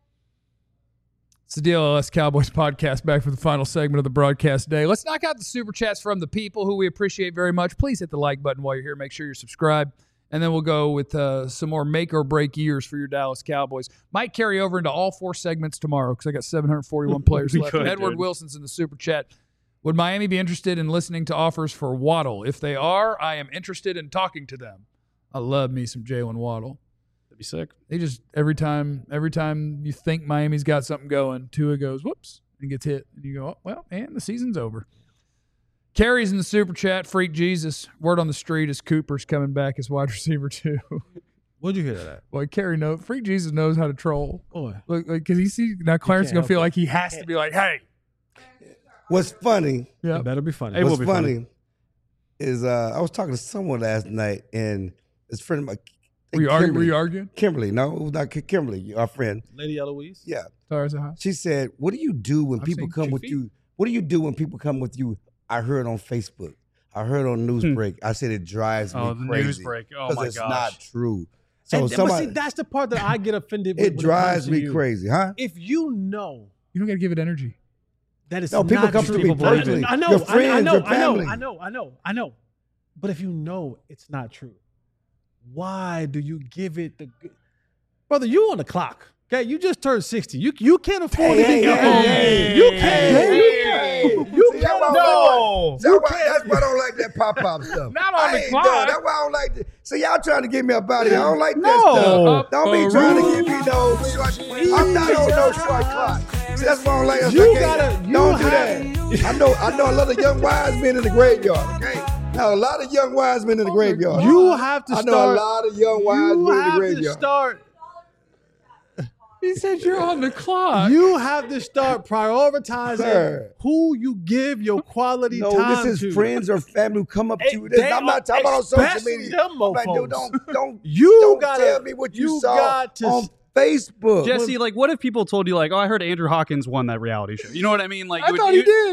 [SPEAKER 1] It's the D L L S Cowboys podcast, back for the final segment of the broadcast day. Let's knock out the super chats from the people who we appreciate very much. Please hit the like button while you're here. Make sure you're subscribed. And then we'll go with uh, some more make or break years for your Dallas Cowboys. Might carry over into all four segments tomorrow because I got seven hundred forty-one players
[SPEAKER 5] We
[SPEAKER 1] left.
[SPEAKER 5] could,
[SPEAKER 1] Edward
[SPEAKER 5] dude.
[SPEAKER 1] Wilson's in the super chat. Would Miami be interested in listening to offers for Waddle? If they are, I am interested in talking to them. I love me some Jalen Waddle.
[SPEAKER 5] That'd be sick.
[SPEAKER 1] They just every time every time you think Miami's got something going, Tua goes whoops and gets hit, and you go, oh, well, and the season's over. Carrie's in the super chat. Freak Jesus. Word on the street is Cooper's coming back as wide receiver too.
[SPEAKER 2] Where'd you hear that?
[SPEAKER 1] Boy, Carrie know Freak Jesus knows how to troll.
[SPEAKER 2] Boy,
[SPEAKER 1] Look, like because he see now Clarence is
[SPEAKER 2] can't
[SPEAKER 1] gonna
[SPEAKER 2] help
[SPEAKER 1] feel
[SPEAKER 2] it.
[SPEAKER 1] like he has to be like, hey,
[SPEAKER 3] What's funny?
[SPEAKER 1] yeah,
[SPEAKER 2] it better be funny.
[SPEAKER 5] It will
[SPEAKER 3] What's
[SPEAKER 5] be
[SPEAKER 3] funny,
[SPEAKER 5] funny.
[SPEAKER 3] is uh, I was talking to someone last night, and this friend of mine,
[SPEAKER 1] were you arguing? Were
[SPEAKER 3] Kimberly,
[SPEAKER 1] you arguing?
[SPEAKER 3] Kimberly, no, it was not Ki- Kimberly, our friend.
[SPEAKER 2] Lady Eloise.
[SPEAKER 3] Yeah,
[SPEAKER 1] Sorry, is it hot?
[SPEAKER 3] she said, "What do you do when
[SPEAKER 1] I've
[SPEAKER 3] people
[SPEAKER 1] seen
[SPEAKER 3] come
[SPEAKER 1] two
[SPEAKER 3] with
[SPEAKER 1] feet.
[SPEAKER 3] you? What do you do when people come with you? I heard on Facebook. I heard on Newsbreak. I said it drives me
[SPEAKER 5] Oh, the
[SPEAKER 3] crazy
[SPEAKER 5] news break. Oh
[SPEAKER 3] because
[SPEAKER 5] my
[SPEAKER 3] it's
[SPEAKER 5] gosh.
[SPEAKER 3] not true. So
[SPEAKER 2] And- but
[SPEAKER 3] somebody,
[SPEAKER 2] see, that's the part that I get offended with.
[SPEAKER 3] it
[SPEAKER 2] when
[SPEAKER 3] drives
[SPEAKER 2] comes to
[SPEAKER 3] me
[SPEAKER 2] you.
[SPEAKER 3] crazy, huh?
[SPEAKER 2] If you know
[SPEAKER 1] You don't got to give it energy.
[SPEAKER 2] that it's
[SPEAKER 3] No, people
[SPEAKER 2] not
[SPEAKER 3] come
[SPEAKER 2] true.
[SPEAKER 3] to me
[SPEAKER 5] People believe
[SPEAKER 3] personally.
[SPEAKER 2] I know,
[SPEAKER 3] Your
[SPEAKER 2] I-
[SPEAKER 3] friends,
[SPEAKER 2] I know,
[SPEAKER 3] your
[SPEAKER 2] I know,
[SPEAKER 3] family.
[SPEAKER 2] I know, I know, I know. But if you know it's not true, why do you give it the good? Brother, you on the clock. Okay, you just turned sixty. You you can't afford
[SPEAKER 3] Hey,
[SPEAKER 2] to be
[SPEAKER 3] hey,
[SPEAKER 2] hey,
[SPEAKER 3] hey,
[SPEAKER 2] You
[SPEAKER 3] hey,
[SPEAKER 2] can't.
[SPEAKER 3] hey,
[SPEAKER 2] you
[SPEAKER 3] hey.
[SPEAKER 2] can't. You
[SPEAKER 3] See, that's
[SPEAKER 2] can't.
[SPEAKER 3] why I
[SPEAKER 2] No.
[SPEAKER 3] That's why, that's why I don't like that pop pop stuff.
[SPEAKER 1] Not on
[SPEAKER 3] I
[SPEAKER 1] the
[SPEAKER 3] ain't
[SPEAKER 1] clock.
[SPEAKER 3] done. That's why I don't like that. So y'all trying to get me up out of here. I don't like that
[SPEAKER 5] No.
[SPEAKER 3] stuff. Don't be
[SPEAKER 1] Up
[SPEAKER 3] trying to
[SPEAKER 1] a
[SPEAKER 3] give me no short. I'm not on no short clock. See, that's why I don't like that.
[SPEAKER 2] You
[SPEAKER 3] Okay,
[SPEAKER 2] gotta- you
[SPEAKER 3] don't do
[SPEAKER 2] have-
[SPEAKER 3] that. I know. I know a lot of young wise men in the graveyard. Okay. Now a lot of young wise men in the graveyard.
[SPEAKER 2] You have to
[SPEAKER 3] I
[SPEAKER 2] start.
[SPEAKER 3] know a lot of young wise
[SPEAKER 2] you
[SPEAKER 3] men in the
[SPEAKER 2] have to
[SPEAKER 3] graveyard.
[SPEAKER 2] start.
[SPEAKER 1] He said you're on the clock.
[SPEAKER 2] You have to start prioritizing
[SPEAKER 3] Sir.
[SPEAKER 2] who you give your quality
[SPEAKER 3] No,
[SPEAKER 2] time
[SPEAKER 3] this
[SPEAKER 2] to.
[SPEAKER 3] is friends or family who come up
[SPEAKER 2] Hey,
[SPEAKER 3] to you. This,
[SPEAKER 2] they
[SPEAKER 3] I'm not
[SPEAKER 2] are-
[SPEAKER 3] talking about on social
[SPEAKER 2] especially
[SPEAKER 3] media.
[SPEAKER 2] them
[SPEAKER 3] I'm like,
[SPEAKER 2] mofos.
[SPEAKER 3] dude, don't don't
[SPEAKER 2] You
[SPEAKER 3] don't
[SPEAKER 2] gotta-
[SPEAKER 3] tell me what you,
[SPEAKER 2] you
[SPEAKER 3] saw
[SPEAKER 2] got to
[SPEAKER 3] on
[SPEAKER 2] s-
[SPEAKER 3] Facebook.
[SPEAKER 5] Jesse, like, what if people told you, like, oh, I heard Andrew Hawkins won that reality show? You know what I mean? Like,
[SPEAKER 1] I
[SPEAKER 5] would
[SPEAKER 1] thought
[SPEAKER 5] you,
[SPEAKER 1] he did.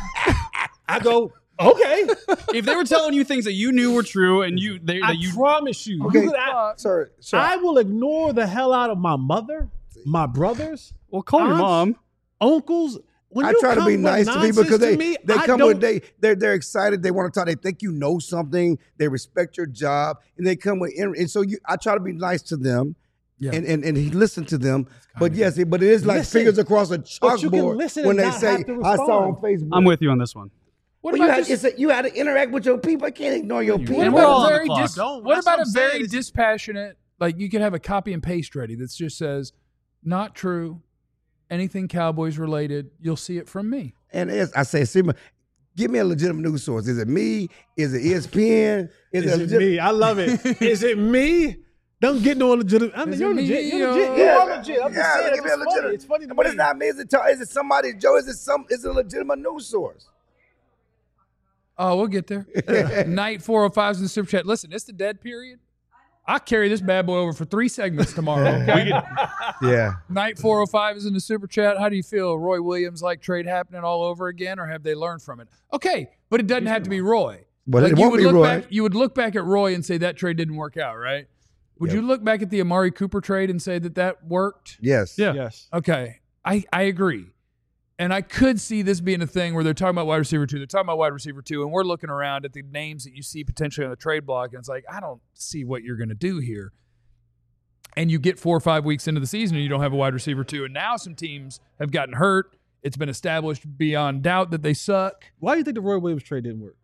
[SPEAKER 2] I go, okay.
[SPEAKER 5] if they were telling you things that you knew were true and you, they,
[SPEAKER 2] I
[SPEAKER 5] that you,
[SPEAKER 2] promise you.
[SPEAKER 3] Okay.
[SPEAKER 2] you could, I,
[SPEAKER 3] Sir, sir.
[SPEAKER 2] I will ignore the hell out of my mother, my brothers,
[SPEAKER 5] well, call your
[SPEAKER 2] Aunts?
[SPEAKER 5] mom.
[SPEAKER 2] uncles. When
[SPEAKER 3] I
[SPEAKER 2] you
[SPEAKER 3] try to
[SPEAKER 2] come
[SPEAKER 3] be
[SPEAKER 2] with
[SPEAKER 3] nice to people
[SPEAKER 2] nonsense
[SPEAKER 3] because they
[SPEAKER 2] me,
[SPEAKER 3] they
[SPEAKER 2] I
[SPEAKER 3] come
[SPEAKER 2] don't-
[SPEAKER 3] with they they're they're excited. They want to talk. They think you know something. They respect your job, and they come with and so you. I try to be nice to them,
[SPEAKER 1] Yeah.
[SPEAKER 3] and and and he listen to them. But yes, it, but it is like
[SPEAKER 2] Listen.
[SPEAKER 3] fingers across a
[SPEAKER 2] But you can
[SPEAKER 3] chalkboard
[SPEAKER 2] listen
[SPEAKER 3] when
[SPEAKER 2] and
[SPEAKER 3] they
[SPEAKER 2] not
[SPEAKER 3] say
[SPEAKER 2] have to
[SPEAKER 3] I saw on
[SPEAKER 2] respond.
[SPEAKER 3] Facebook.
[SPEAKER 5] I'm with you on this one.
[SPEAKER 1] What
[SPEAKER 3] Well, you,
[SPEAKER 1] about
[SPEAKER 3] had,
[SPEAKER 1] just,
[SPEAKER 3] it's a, you had to interact with your people. I can't ignore your people.
[SPEAKER 1] what
[SPEAKER 5] And we're
[SPEAKER 1] about
[SPEAKER 5] all
[SPEAKER 1] a
[SPEAKER 5] on the
[SPEAKER 1] very
[SPEAKER 5] clock.
[SPEAKER 1] dis-
[SPEAKER 2] Don't.
[SPEAKER 1] what
[SPEAKER 2] That's
[SPEAKER 1] about
[SPEAKER 2] what
[SPEAKER 1] a
[SPEAKER 2] I'm
[SPEAKER 1] very
[SPEAKER 2] saying. It's-
[SPEAKER 1] dispassionate? Like you could have a copy and paste ready that just says, "Not true." anything Cowboys related, you'll see it from me.
[SPEAKER 3] And as I say, Simon, give me a legitimate news source. Is it me? Is it E S P N?
[SPEAKER 2] Is,
[SPEAKER 3] it,
[SPEAKER 2] it
[SPEAKER 3] legit-
[SPEAKER 2] me? I love it. Is it me? Don't get no legitimate. I mean,
[SPEAKER 1] Is
[SPEAKER 2] you're
[SPEAKER 1] it me,
[SPEAKER 2] legit. You're
[SPEAKER 1] yo?
[SPEAKER 2] legit. You
[SPEAKER 3] Yeah,
[SPEAKER 2] are legit. I'm just
[SPEAKER 3] yeah,
[SPEAKER 2] saying.
[SPEAKER 3] give me
[SPEAKER 2] It's
[SPEAKER 3] a
[SPEAKER 2] funny.
[SPEAKER 3] legitimate-
[SPEAKER 2] It's funny to
[SPEAKER 3] But
[SPEAKER 2] me.
[SPEAKER 3] it's not me. Is it, is it somebody, Joe? Is it some? Is it a legitimate news source?
[SPEAKER 1] Oh, we'll get there. Night four oh five is in the super chat. Listen, it's the dead period. I carry this bad boy over for three segments tomorrow. Okay?
[SPEAKER 3] Yeah.
[SPEAKER 1] Night four oh five is in the super chat. How do you feel? Roy Williams like trade happening all over again, or have they learned from it? Okay, but it doesn't have to be Roy.
[SPEAKER 3] But
[SPEAKER 1] Like,
[SPEAKER 3] it
[SPEAKER 1] you
[SPEAKER 3] won't
[SPEAKER 1] would
[SPEAKER 3] be
[SPEAKER 1] look
[SPEAKER 3] Roy.
[SPEAKER 1] back. You would look back at Roy and say that trade didn't work out, right? Would
[SPEAKER 3] Yep.
[SPEAKER 1] you look back at the Amari Cooper trade and say that that worked?
[SPEAKER 3] Yes.
[SPEAKER 5] Yeah.
[SPEAKER 2] Yes.
[SPEAKER 1] Okay, I I agree, and I could see this being a thing where they're talking about wide receiver two, they're talking about wide receiver two, and we're looking around at the names that you see potentially on the trade block, and it's like I don't see what you're going to do here. And you get four or five weeks into the season and you don't have a wide receiver two, and now some teams have gotten hurt. It's been established beyond doubt that they suck.
[SPEAKER 2] Why do you think the Roy Williams trade didn't work?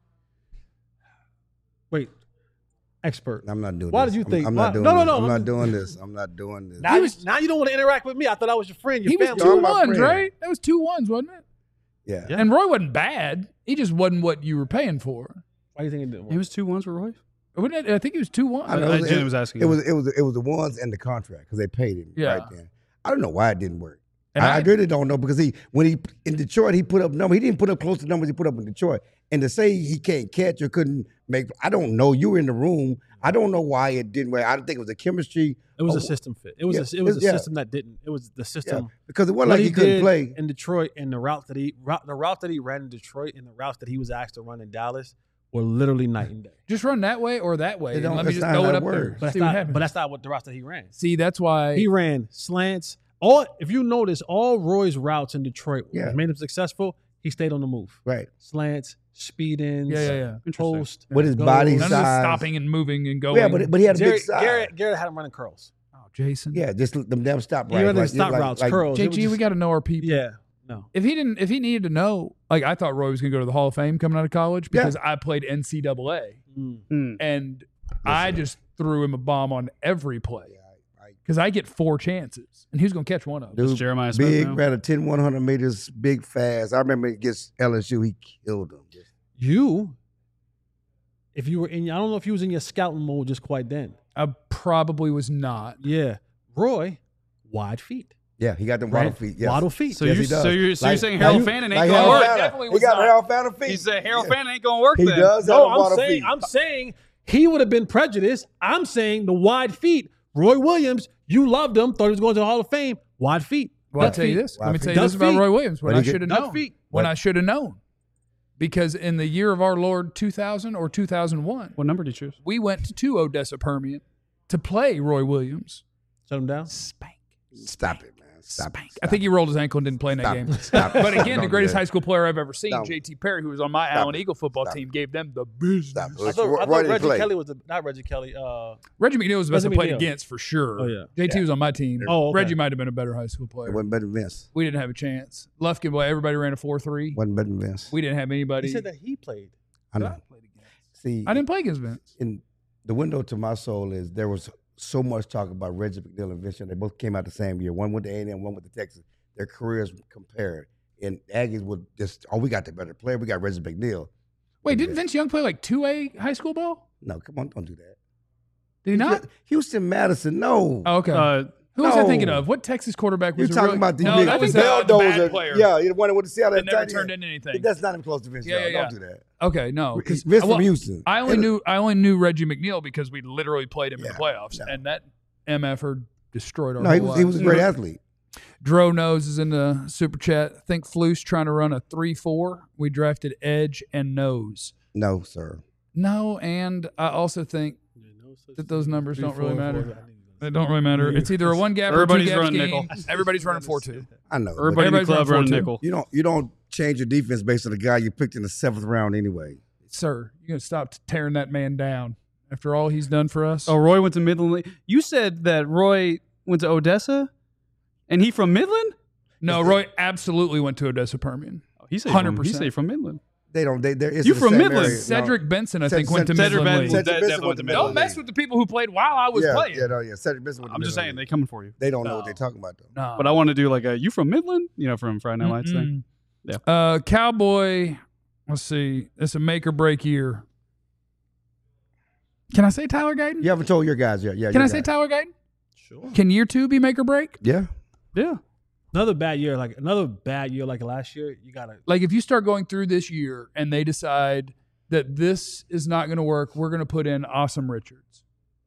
[SPEAKER 2] Wait, expert.
[SPEAKER 3] I'm not doing
[SPEAKER 2] Why
[SPEAKER 3] this.
[SPEAKER 2] did you
[SPEAKER 3] I'm-
[SPEAKER 2] think-
[SPEAKER 3] I'm,
[SPEAKER 2] why-
[SPEAKER 3] not doing
[SPEAKER 2] no, no,
[SPEAKER 3] this.
[SPEAKER 2] no,
[SPEAKER 3] I'm
[SPEAKER 2] I'm
[SPEAKER 3] not
[SPEAKER 2] just-
[SPEAKER 3] doing this. I'm not doing this.
[SPEAKER 2] Now, you, now you don't want to interact with me. I thought I was your friend, your
[SPEAKER 1] He was
[SPEAKER 2] family.
[SPEAKER 1] two
[SPEAKER 3] I'm my
[SPEAKER 1] ones,
[SPEAKER 3] friend.
[SPEAKER 1] right? That was two ones, wasn't it?
[SPEAKER 3] Yeah.
[SPEAKER 2] Yeah.
[SPEAKER 1] And Roy wasn't bad. He just wasn't what you were paying for.
[SPEAKER 2] Why do you think it didn't work?
[SPEAKER 5] It was two ones for Roy.
[SPEAKER 1] Wasn't it? I think he was two one.
[SPEAKER 3] I know.
[SPEAKER 5] I-
[SPEAKER 3] It was-
[SPEAKER 5] Jenny was asking
[SPEAKER 3] It
[SPEAKER 5] you.
[SPEAKER 3] was it was it was the ones and the contract because they paid him
[SPEAKER 1] Yeah.
[SPEAKER 3] right then. I don't know why it didn't work.
[SPEAKER 1] And
[SPEAKER 3] I, I
[SPEAKER 1] I-
[SPEAKER 3] really don't know because he when he in Detroit he put up numbers. He didn't put up close to numbers he put up in Detroit. And to say he can't catch or couldn't make, I don't know. You were in the room. I don't know why it didn't work. I don't think it was a chemistry.
[SPEAKER 2] It was
[SPEAKER 3] Oh,
[SPEAKER 2] a system fit. It was
[SPEAKER 3] yeah,
[SPEAKER 2] a, it was a
[SPEAKER 3] yeah.
[SPEAKER 2] system that didn't. It was the
[SPEAKER 3] Yeah,
[SPEAKER 2] system.
[SPEAKER 3] because it wasn't
[SPEAKER 2] What
[SPEAKER 3] like he, couldn't
[SPEAKER 2] did
[SPEAKER 3] play.
[SPEAKER 2] in Detroit and the route that he route, the route that he ran in Detroit and the routes that he was asked to run in Dallas were literally night and day.
[SPEAKER 1] Just run that way or that way.
[SPEAKER 3] It
[SPEAKER 1] And
[SPEAKER 3] don't-
[SPEAKER 1] let me
[SPEAKER 3] that's
[SPEAKER 1] just
[SPEAKER 3] not
[SPEAKER 1] throw
[SPEAKER 3] how
[SPEAKER 1] it
[SPEAKER 3] it
[SPEAKER 1] up there.
[SPEAKER 3] works.
[SPEAKER 2] But that's
[SPEAKER 1] See what
[SPEAKER 2] not.
[SPEAKER 1] happens.
[SPEAKER 2] But that's not what the routes that he ran.
[SPEAKER 1] See, that's why
[SPEAKER 2] He ran slants. All if you notice, all Roy's routes in Detroit
[SPEAKER 3] Yeah.
[SPEAKER 2] what made him successful. He stayed on the move.
[SPEAKER 3] Right.
[SPEAKER 2] Slants, speed ins,
[SPEAKER 1] Yeah, yeah, yeah.
[SPEAKER 5] Interesting.
[SPEAKER 2] post.
[SPEAKER 3] With his
[SPEAKER 2] goes.
[SPEAKER 3] body
[SPEAKER 1] none of this
[SPEAKER 3] size.
[SPEAKER 1] stopping and moving and going.
[SPEAKER 3] Yeah, but but he had a
[SPEAKER 2] Garrett,
[SPEAKER 3] big size.
[SPEAKER 2] Garrett, Garrett had him running curls.
[SPEAKER 1] oh, Jason.
[SPEAKER 3] Yeah, just them damn stop
[SPEAKER 2] He
[SPEAKER 3] right.
[SPEAKER 2] ran
[SPEAKER 3] like,
[SPEAKER 2] stop
[SPEAKER 3] like,
[SPEAKER 2] routes,
[SPEAKER 3] like,
[SPEAKER 2] curls. It
[SPEAKER 1] J
[SPEAKER 2] was
[SPEAKER 1] G,
[SPEAKER 2] just-
[SPEAKER 1] we got to know our people.
[SPEAKER 2] Yeah, no.
[SPEAKER 1] If he didn't, if he needed to know, like I thought Roy was going to go to the Hall of Fame coming out of college because I played N C double A,
[SPEAKER 2] Mm.
[SPEAKER 5] Hmm.
[SPEAKER 1] and I just threw him a bomb on every play
[SPEAKER 3] I-
[SPEAKER 1] because I get four chances, and who's going to catch one of them?
[SPEAKER 3] Dude,
[SPEAKER 5] Jeremiah Smith
[SPEAKER 3] big,
[SPEAKER 5] now?
[SPEAKER 3] ran a ten, one hundred meters, big, fast. I remember against L S U, he killed him.
[SPEAKER 2] You, if you were in, I don't know if you was in your scouting mode just quite then.
[SPEAKER 1] I probably was not.
[SPEAKER 2] Yeah, Roy, wide feet,
[SPEAKER 3] Yeah, he got them waddle
[SPEAKER 2] Right?
[SPEAKER 3] feet. Yes.
[SPEAKER 2] waddle feet.
[SPEAKER 5] So
[SPEAKER 3] Yes,
[SPEAKER 5] you
[SPEAKER 3] he does.
[SPEAKER 5] so you're so
[SPEAKER 3] Like-
[SPEAKER 5] you're saying
[SPEAKER 3] like
[SPEAKER 5] Harold
[SPEAKER 3] you-
[SPEAKER 5] Fannin ain't
[SPEAKER 3] like
[SPEAKER 5] gonna
[SPEAKER 3] Harold
[SPEAKER 5] work?
[SPEAKER 3] Fannin.
[SPEAKER 1] Definitely
[SPEAKER 3] He
[SPEAKER 1] was
[SPEAKER 3] got
[SPEAKER 1] not.
[SPEAKER 3] Harold Fannin feet.
[SPEAKER 5] He said Harold
[SPEAKER 3] Yeah.
[SPEAKER 5] Fannin ain't gonna work.
[SPEAKER 3] He
[SPEAKER 5] then.
[SPEAKER 3] does have
[SPEAKER 2] No,
[SPEAKER 3] them
[SPEAKER 2] I'm
[SPEAKER 3] waddle
[SPEAKER 2] saying,
[SPEAKER 3] feet.
[SPEAKER 2] I'm saying he would have been prejudiced. I'm saying the wide feet. Roy Williams, you loved him, thought he was going to the Hall of Fame. Wide feet.
[SPEAKER 1] Well, I'll
[SPEAKER 2] Duck
[SPEAKER 1] tell you
[SPEAKER 2] feet.
[SPEAKER 1] this. Let me
[SPEAKER 3] Duck
[SPEAKER 1] tell you
[SPEAKER 2] feet.
[SPEAKER 1] this about
[SPEAKER 2] Duck
[SPEAKER 1] Roy Williams. When
[SPEAKER 3] But
[SPEAKER 1] I
[SPEAKER 3] he
[SPEAKER 1] should have
[SPEAKER 2] Duck
[SPEAKER 1] known.
[SPEAKER 2] feet.
[SPEAKER 1] When
[SPEAKER 3] What?
[SPEAKER 1] I should have known. Because in the year of our Lord two thousand or two thousand one,
[SPEAKER 5] What number did you choose?
[SPEAKER 1] we went to Odessa Permian to play Roy Williams.
[SPEAKER 2] Shut him down.
[SPEAKER 1] Spank.
[SPEAKER 3] Stop it, man. Stop
[SPEAKER 1] Spank.
[SPEAKER 3] it.
[SPEAKER 1] I think he rolled his ankle and didn't play in that
[SPEAKER 3] Stop
[SPEAKER 1] game.
[SPEAKER 3] it. Stop it.
[SPEAKER 1] But again,
[SPEAKER 3] Don't
[SPEAKER 1] the
[SPEAKER 3] do
[SPEAKER 1] greatest
[SPEAKER 3] that.
[SPEAKER 1] high school player I've ever seen,
[SPEAKER 3] Stop it.
[SPEAKER 1] J T Perry, who was on my
[SPEAKER 3] Stop
[SPEAKER 1] Allen
[SPEAKER 3] it.
[SPEAKER 1] Eagle football
[SPEAKER 3] Stop
[SPEAKER 1] team,
[SPEAKER 3] it.
[SPEAKER 1] gave them the business.
[SPEAKER 3] Stop it.
[SPEAKER 2] I thought, I
[SPEAKER 3] Roy
[SPEAKER 2] thought
[SPEAKER 3] didn't
[SPEAKER 2] Reggie
[SPEAKER 3] play.
[SPEAKER 2] Kelly was the, not Reggie Kelly. Uh,
[SPEAKER 1] Reggie McNeil was the best I
[SPEAKER 2] Reggie
[SPEAKER 1] played
[SPEAKER 2] McNeil.
[SPEAKER 1] against for sure.
[SPEAKER 2] Oh, yeah.
[SPEAKER 1] J T was on my team.
[SPEAKER 2] Oh, okay.
[SPEAKER 1] Reggie might have been a better high school
[SPEAKER 3] It
[SPEAKER 1] player.
[SPEAKER 3] wasn't better than Vince.
[SPEAKER 1] We didn't have a chance. Lufkin, boy, everybody ran a four three.
[SPEAKER 3] Wasn't better than Vince.
[SPEAKER 1] We didn't have anybody.
[SPEAKER 2] he said that he played.
[SPEAKER 3] I know. See,
[SPEAKER 1] I didn't play against Vince.
[SPEAKER 3] in the window to my soul is there was so much talk about Reggie McNeil and Vince. They both came out the same year. One went to A and M, one went to Texas. Their careers compared. And Aggies would just, oh, we got the better player. We got Reggie McNeil.
[SPEAKER 1] Wait, didn't Vince Young play like two A high school ball?
[SPEAKER 3] No, come on, don't do that.
[SPEAKER 1] Did he not?
[SPEAKER 3] Houston Madison, no.
[SPEAKER 1] Oh, okay.
[SPEAKER 5] Uh,
[SPEAKER 1] Who was I
[SPEAKER 3] no.
[SPEAKER 1] thinking of? What Texas quarterback was
[SPEAKER 3] You're
[SPEAKER 1] a
[SPEAKER 3] talking
[SPEAKER 1] really-
[SPEAKER 3] about the
[SPEAKER 1] No,
[SPEAKER 3] big
[SPEAKER 1] that was
[SPEAKER 3] Bell
[SPEAKER 1] the, the bad
[SPEAKER 3] Dozer.
[SPEAKER 1] player.
[SPEAKER 3] Yeah, the one with the Seattle.
[SPEAKER 1] that never
[SPEAKER 3] Titan.
[SPEAKER 1] turned into anything.
[SPEAKER 3] That's not even close to Vince
[SPEAKER 1] Yeah,
[SPEAKER 3] Young.
[SPEAKER 1] yeah,
[SPEAKER 3] Don't
[SPEAKER 1] yeah.
[SPEAKER 3] do that.
[SPEAKER 1] Okay, no. 'cause-
[SPEAKER 3] Vince
[SPEAKER 1] well,
[SPEAKER 3] from Houston.
[SPEAKER 1] I only
[SPEAKER 3] And-
[SPEAKER 1] knew I only knew Reggie McNeil because we literally played him in
[SPEAKER 3] Yeah,
[SPEAKER 1] the playoffs,
[SPEAKER 3] no.
[SPEAKER 1] and that M F er destroyed our.
[SPEAKER 3] No, he
[SPEAKER 1] whole
[SPEAKER 3] was, he was a
[SPEAKER 1] lives.
[SPEAKER 3] great athlete.
[SPEAKER 1] Dro Nose is in the super chat. Think Flus trying to run a three four. We drafted Edge and Nose.
[SPEAKER 3] No, sir.
[SPEAKER 1] No, and I also think that those numbers don't really matter. They don't really matter. It's either a one gap or
[SPEAKER 5] Everybody's
[SPEAKER 1] two gap
[SPEAKER 5] running
[SPEAKER 1] scheme.
[SPEAKER 5] nickel.
[SPEAKER 1] Everybody's running four two.
[SPEAKER 3] I know. but
[SPEAKER 5] everybody in the
[SPEAKER 1] Everybody's
[SPEAKER 5] club
[SPEAKER 1] running
[SPEAKER 5] running
[SPEAKER 1] four two.
[SPEAKER 5] nickel.
[SPEAKER 3] You don't you don't change your defense based on the guy you picked in the seventh round anyway.
[SPEAKER 1] Sir, you're gonna stop tearing that man down after all he's done for us.
[SPEAKER 5] Oh, Roy went to Midland. You said that Roy went to Odessa, and he from Midland?
[SPEAKER 1] no, Roy absolutely went to Odessa Permian.
[SPEAKER 5] Oh, he said
[SPEAKER 1] one hundred
[SPEAKER 5] from, he
[SPEAKER 1] percent.
[SPEAKER 5] said from Midland.
[SPEAKER 3] They don't. They they're. it's
[SPEAKER 5] You
[SPEAKER 3] the
[SPEAKER 5] from
[SPEAKER 3] same
[SPEAKER 5] Midland.
[SPEAKER 3] area. No.
[SPEAKER 1] Cedric Benson, I
[SPEAKER 3] Ced-
[SPEAKER 1] think, went to
[SPEAKER 3] Cedric
[SPEAKER 1] Midland.
[SPEAKER 5] Benson-
[SPEAKER 1] League.
[SPEAKER 3] Cedric
[SPEAKER 5] That-
[SPEAKER 3] Benson
[SPEAKER 5] that
[SPEAKER 3] went to
[SPEAKER 5] went to
[SPEAKER 3] Midland
[SPEAKER 1] Don't mess
[SPEAKER 3] League.
[SPEAKER 1] with the people who played while I was
[SPEAKER 3] yeah,
[SPEAKER 1] playing.
[SPEAKER 3] Yeah, no, yeah. Cedric Benson went to
[SPEAKER 5] I'm just saying
[SPEAKER 3] Midland
[SPEAKER 5] they
[SPEAKER 3] League.
[SPEAKER 5] coming for you.
[SPEAKER 3] They don't know
[SPEAKER 1] No.
[SPEAKER 3] what they're talking about though.
[SPEAKER 1] No.
[SPEAKER 5] But I want to do like a you from Midland, you know, from Friday Night Lights thing.
[SPEAKER 1] Mm-mm. Uh, Cowboy, let's see. It's a make or break year. Can I say Tyler Guyton?
[SPEAKER 3] You haven't told your guys yet. Yeah.
[SPEAKER 1] Can
[SPEAKER 3] your
[SPEAKER 1] I say
[SPEAKER 3] guys.
[SPEAKER 1] Tyler Guyton?
[SPEAKER 2] Sure.
[SPEAKER 1] Can year two be make or break?
[SPEAKER 3] Yeah.
[SPEAKER 5] Yeah.
[SPEAKER 2] Another bad year, like another bad year, like last year. You gotta.
[SPEAKER 1] Like if you start going through this year and they decide that this is not going to work, we're going to put in Awesome Richards.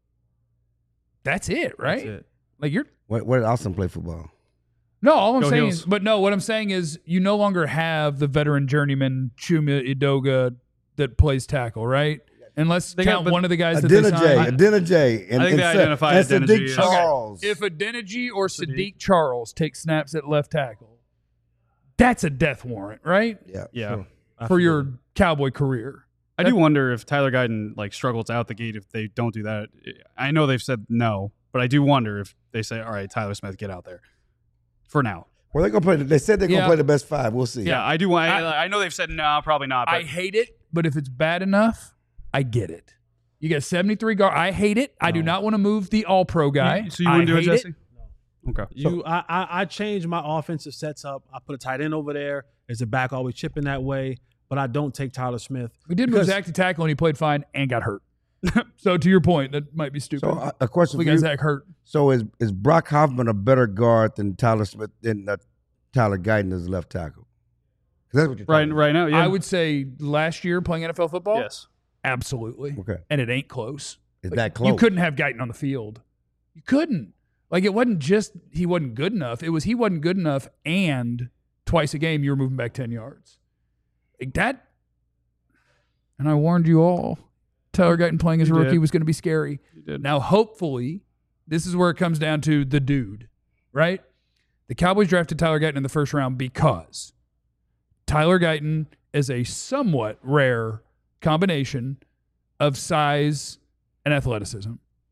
[SPEAKER 1] That's it, right?
[SPEAKER 2] That's it.
[SPEAKER 1] Like you're
[SPEAKER 3] Where, where did Austin play football?
[SPEAKER 1] no. All I'm
[SPEAKER 5] Go
[SPEAKER 1] saying
[SPEAKER 5] Heels.
[SPEAKER 1] is, but no. What I'm saying is, you no longer have the veteran journeyman Chuma Idoga that plays tackle, right? Unless
[SPEAKER 5] They got-
[SPEAKER 1] count
[SPEAKER 5] but
[SPEAKER 1] one of the guys that they
[SPEAKER 3] Adena J.
[SPEAKER 1] signed.
[SPEAKER 3] Adena J. And,
[SPEAKER 5] I think
[SPEAKER 3] and
[SPEAKER 5] they
[SPEAKER 3] Sa-
[SPEAKER 5] identified
[SPEAKER 3] and
[SPEAKER 5] Adena
[SPEAKER 3] Sadiq
[SPEAKER 5] J as-
[SPEAKER 3] Charles.
[SPEAKER 1] If Adeniji or Sadiq.
[SPEAKER 5] Sadiq.
[SPEAKER 1] Charles take snaps at left tackle, that's a death warrant, right?
[SPEAKER 3] Yeah.
[SPEAKER 5] Yeah.
[SPEAKER 3] sure.
[SPEAKER 1] For your Cowboy career.
[SPEAKER 5] I do wonder if Tyler Guyton like struggles out the gate if they don't do that. I know they've said no, but I do wonder if they say, "All right, Tyler Smith, get out there for now."
[SPEAKER 3] Well, they're gonna play. They said they're gonna
[SPEAKER 1] Yeah.
[SPEAKER 3] play the best five. We'll see.
[SPEAKER 5] Yeah, I do. I, I, I know they've said no, probably not. But
[SPEAKER 1] I hate it, but if it's bad enough, I get it. You got seventy-three guard. I hate it. I do not want to move the all-pro guy.
[SPEAKER 5] You- so you
[SPEAKER 1] I
[SPEAKER 5] wouldn't do it,
[SPEAKER 1] hate
[SPEAKER 5] Jesse? Okay.
[SPEAKER 2] You, I, I, I changed my offensive sets up. I put a tight end over there. There's a back always chipping that way, but I don't take Tyler Smith.
[SPEAKER 1] We did move
[SPEAKER 2] Because-
[SPEAKER 1] Zach to tackle, and he played fine and got hurt. So to your point, that might be stupid.
[SPEAKER 3] So uh, a question
[SPEAKER 1] we
[SPEAKER 3] for
[SPEAKER 1] got
[SPEAKER 3] you.
[SPEAKER 1] Zach hurt.
[SPEAKER 3] So is is Brock Hoffman a better guard than Tyler Smith than uh, Tyler Guyton as left tackle? 'Cause that's what you're
[SPEAKER 5] Right,
[SPEAKER 3] talking
[SPEAKER 5] right now, yeah.
[SPEAKER 1] I would say last year playing N F L football,
[SPEAKER 5] Yes.
[SPEAKER 1] absolutely.
[SPEAKER 3] Okay.
[SPEAKER 1] And it ain't close.
[SPEAKER 3] Is
[SPEAKER 1] Like,
[SPEAKER 3] that close?
[SPEAKER 1] You couldn't have Guyton on the field. You couldn't. Like it wasn't just he wasn't good enough. It was he wasn't good enough, and twice a game you were moving back ten yards. Like that. And I warned you all. Tyler Guyton playing as a
[SPEAKER 5] You
[SPEAKER 1] rookie
[SPEAKER 5] did.
[SPEAKER 1] was going to be scary.
[SPEAKER 5] You did.
[SPEAKER 1] Now, hopefully, this is where it comes down to the dude, right? The Cowboys drafted Tyler Guyton in the first round because Tyler Guyton is a somewhat rare combination of size and athleticism.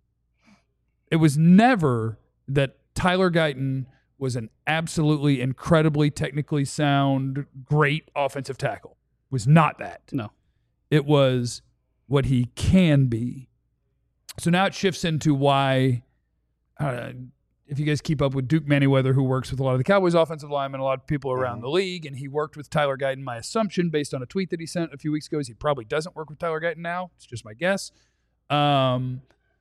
[SPEAKER 1] It was never that Tyler Guyton was an absolutely incredibly technically sound, great offensive tackle. It was not that.
[SPEAKER 5] No.
[SPEAKER 1] It was what he can be. So now it shifts into why, uh, if you guys keep up with Duke Manyweather, who works with a lot of the Cowboys offensive linemen, a lot of people around the league, and he worked with Tyler Guyton. My assumption, based on a tweet that he sent a few weeks ago, is he probably doesn't work with Tyler Guyton now. It's just my guess. Um,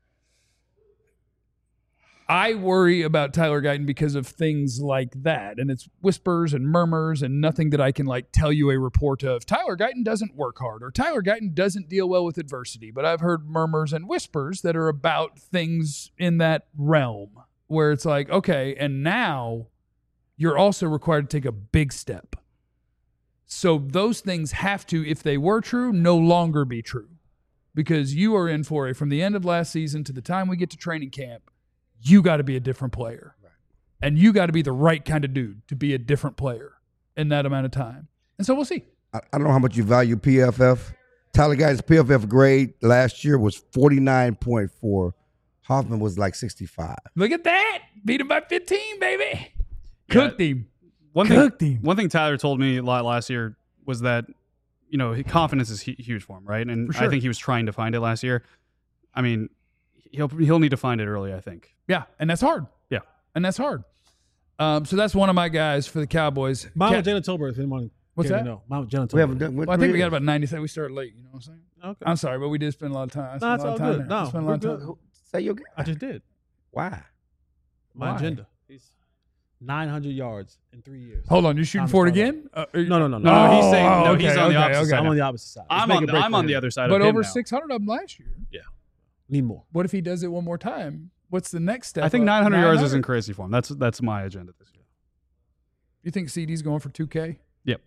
[SPEAKER 1] I worry about Tyler Guyton because of things like that. And it's whispers and murmurs and nothing that I can like tell you a report of. Tyler Guyton doesn't work hard or Tyler Guyton doesn't deal well with adversity. But I've heard murmurs and whispers that are about things in that realm where it's like, okay, and now you're also required to take a big step. So those things have to, if they were true, no longer be true. Because you are in for a, from the end of last season to the time we get to training camp, you got to be a different player. Right. And you got to be the right kind of dude to be a different player in that amount of time. And so we'll see.
[SPEAKER 3] I, I don't know how much you value P F F. Tyler Guyton's P F F grade last year was forty-nine point four. Hoffman was like sixty-five.
[SPEAKER 1] Look at that. Beat him by fifteen, baby. Cooked him.
[SPEAKER 5] One
[SPEAKER 1] Cooked
[SPEAKER 5] thing,
[SPEAKER 1] him.
[SPEAKER 5] one thing Tyler told me a lot last year was that, you know, confidence is hu- huge for him, right? And
[SPEAKER 1] For sure.
[SPEAKER 5] I think he was trying to find it last year. I mean, he'll he'll need to find it early, I think.
[SPEAKER 1] Yeah, and that's hard.
[SPEAKER 5] Yeah.
[SPEAKER 1] And that's hard. Um, so that's one of my guys for the Cowboys.
[SPEAKER 2] Mount
[SPEAKER 1] Cat-
[SPEAKER 2] Jenna Tolbert, if anyone
[SPEAKER 1] What's
[SPEAKER 2] cared
[SPEAKER 1] that?
[SPEAKER 2] to know. Mount Jenna Tolbert.
[SPEAKER 3] We haven't done.
[SPEAKER 1] Well, I think we got about ninety seconds. We started late. You know what I'm saying?
[SPEAKER 2] Okay.
[SPEAKER 1] I'm sorry, but we did spend a lot of time. I
[SPEAKER 2] No,
[SPEAKER 1] spent
[SPEAKER 2] it's
[SPEAKER 1] a lot
[SPEAKER 2] all
[SPEAKER 1] of time
[SPEAKER 2] good.
[SPEAKER 1] there. I
[SPEAKER 2] No,
[SPEAKER 1] spent a
[SPEAKER 2] we're
[SPEAKER 1] lot of
[SPEAKER 2] good.
[SPEAKER 1] time.
[SPEAKER 3] Say your guy.
[SPEAKER 2] I just did.
[SPEAKER 3] Why?
[SPEAKER 2] My
[SPEAKER 1] Why?
[SPEAKER 2] agenda. He's nine hundred yards in three years.
[SPEAKER 1] Hold on, you're shooting
[SPEAKER 2] Thomas
[SPEAKER 1] for it
[SPEAKER 2] Tyler.
[SPEAKER 1] again? Uh, are you-
[SPEAKER 2] No, no, no, no.
[SPEAKER 5] No, no, he's
[SPEAKER 1] Oh,
[SPEAKER 5] saying no.
[SPEAKER 1] okay,
[SPEAKER 5] he's on the
[SPEAKER 1] okay,
[SPEAKER 5] opposite
[SPEAKER 1] okay.
[SPEAKER 5] side.
[SPEAKER 2] I'm on the opposite side. Let's
[SPEAKER 5] I'm
[SPEAKER 2] make
[SPEAKER 5] on
[SPEAKER 2] a
[SPEAKER 5] the,
[SPEAKER 2] break
[SPEAKER 5] I'm
[SPEAKER 2] for
[SPEAKER 5] on the
[SPEAKER 2] him.
[SPEAKER 5] other side
[SPEAKER 1] But
[SPEAKER 5] of him
[SPEAKER 1] over
[SPEAKER 5] now.
[SPEAKER 1] six hundred of them last year.
[SPEAKER 2] Need more.
[SPEAKER 1] What if he does it one more time? What's the next step?
[SPEAKER 5] I think
[SPEAKER 1] up?
[SPEAKER 5] nine hundred yards isn't
[SPEAKER 1] nine hundred?
[SPEAKER 5] crazy for him. That's that's my agenda this year.
[SPEAKER 1] You think C D's going for two K?
[SPEAKER 5] Yep.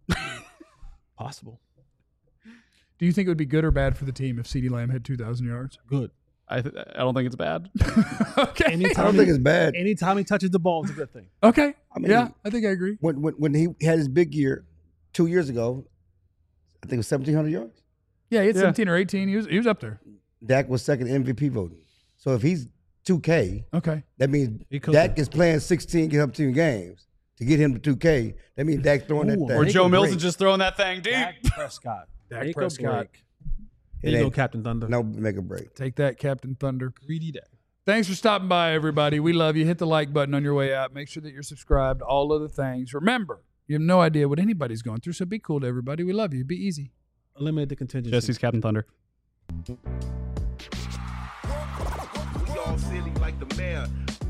[SPEAKER 2] Possible.
[SPEAKER 1] Do you think it would be good or bad for the team if C D Lamb had two thousand yards?
[SPEAKER 2] Good.
[SPEAKER 5] I th- I don't think it's bad.
[SPEAKER 1] Okay.
[SPEAKER 3] I
[SPEAKER 2] Anytime
[SPEAKER 3] don't
[SPEAKER 2] he-
[SPEAKER 3] think it's bad.
[SPEAKER 2] Anytime he touches the ball, it's a good thing.
[SPEAKER 1] Okay.
[SPEAKER 3] I mean,
[SPEAKER 1] yeah, I think I agree.
[SPEAKER 3] When when when he had his big year two years ago, I think it was seventeen hundred yards.
[SPEAKER 1] Yeah, he had
[SPEAKER 5] Yeah.
[SPEAKER 1] seventeen or eighteen. He was he was up there.
[SPEAKER 3] Dak was second M V P voting. So if he's two K,
[SPEAKER 1] Okay.
[SPEAKER 3] that means
[SPEAKER 2] He could
[SPEAKER 3] Dak
[SPEAKER 2] be.
[SPEAKER 3] is playing sixteen, get up to games. to get him to two K. That means Dak throwing that
[SPEAKER 2] Ooh,
[SPEAKER 3] thing.
[SPEAKER 5] Or
[SPEAKER 2] Make
[SPEAKER 5] Joe
[SPEAKER 2] a
[SPEAKER 5] Milton
[SPEAKER 2] break.
[SPEAKER 5] just throwing that thing deep.
[SPEAKER 2] Dak Prescott.
[SPEAKER 1] Dak
[SPEAKER 2] Make
[SPEAKER 1] Prescott.
[SPEAKER 2] a break.
[SPEAKER 3] It
[SPEAKER 2] There you go,
[SPEAKER 3] ain't-
[SPEAKER 2] Captain Thunder.
[SPEAKER 3] No, make a break.
[SPEAKER 1] Take that, Captain Thunder.
[SPEAKER 2] Greedy Dak.
[SPEAKER 1] Thanks for stopping by, everybody. We love you. Hit the like button on your way out. Make sure that you're subscribed. All of the things. Remember, you have no idea what anybody's going through, so be cool to everybody. We love you. Be easy.
[SPEAKER 2] Eliminate the contingency.
[SPEAKER 5] Jesse's Captain Thunder.
[SPEAKER 6] We all silly like the mayor.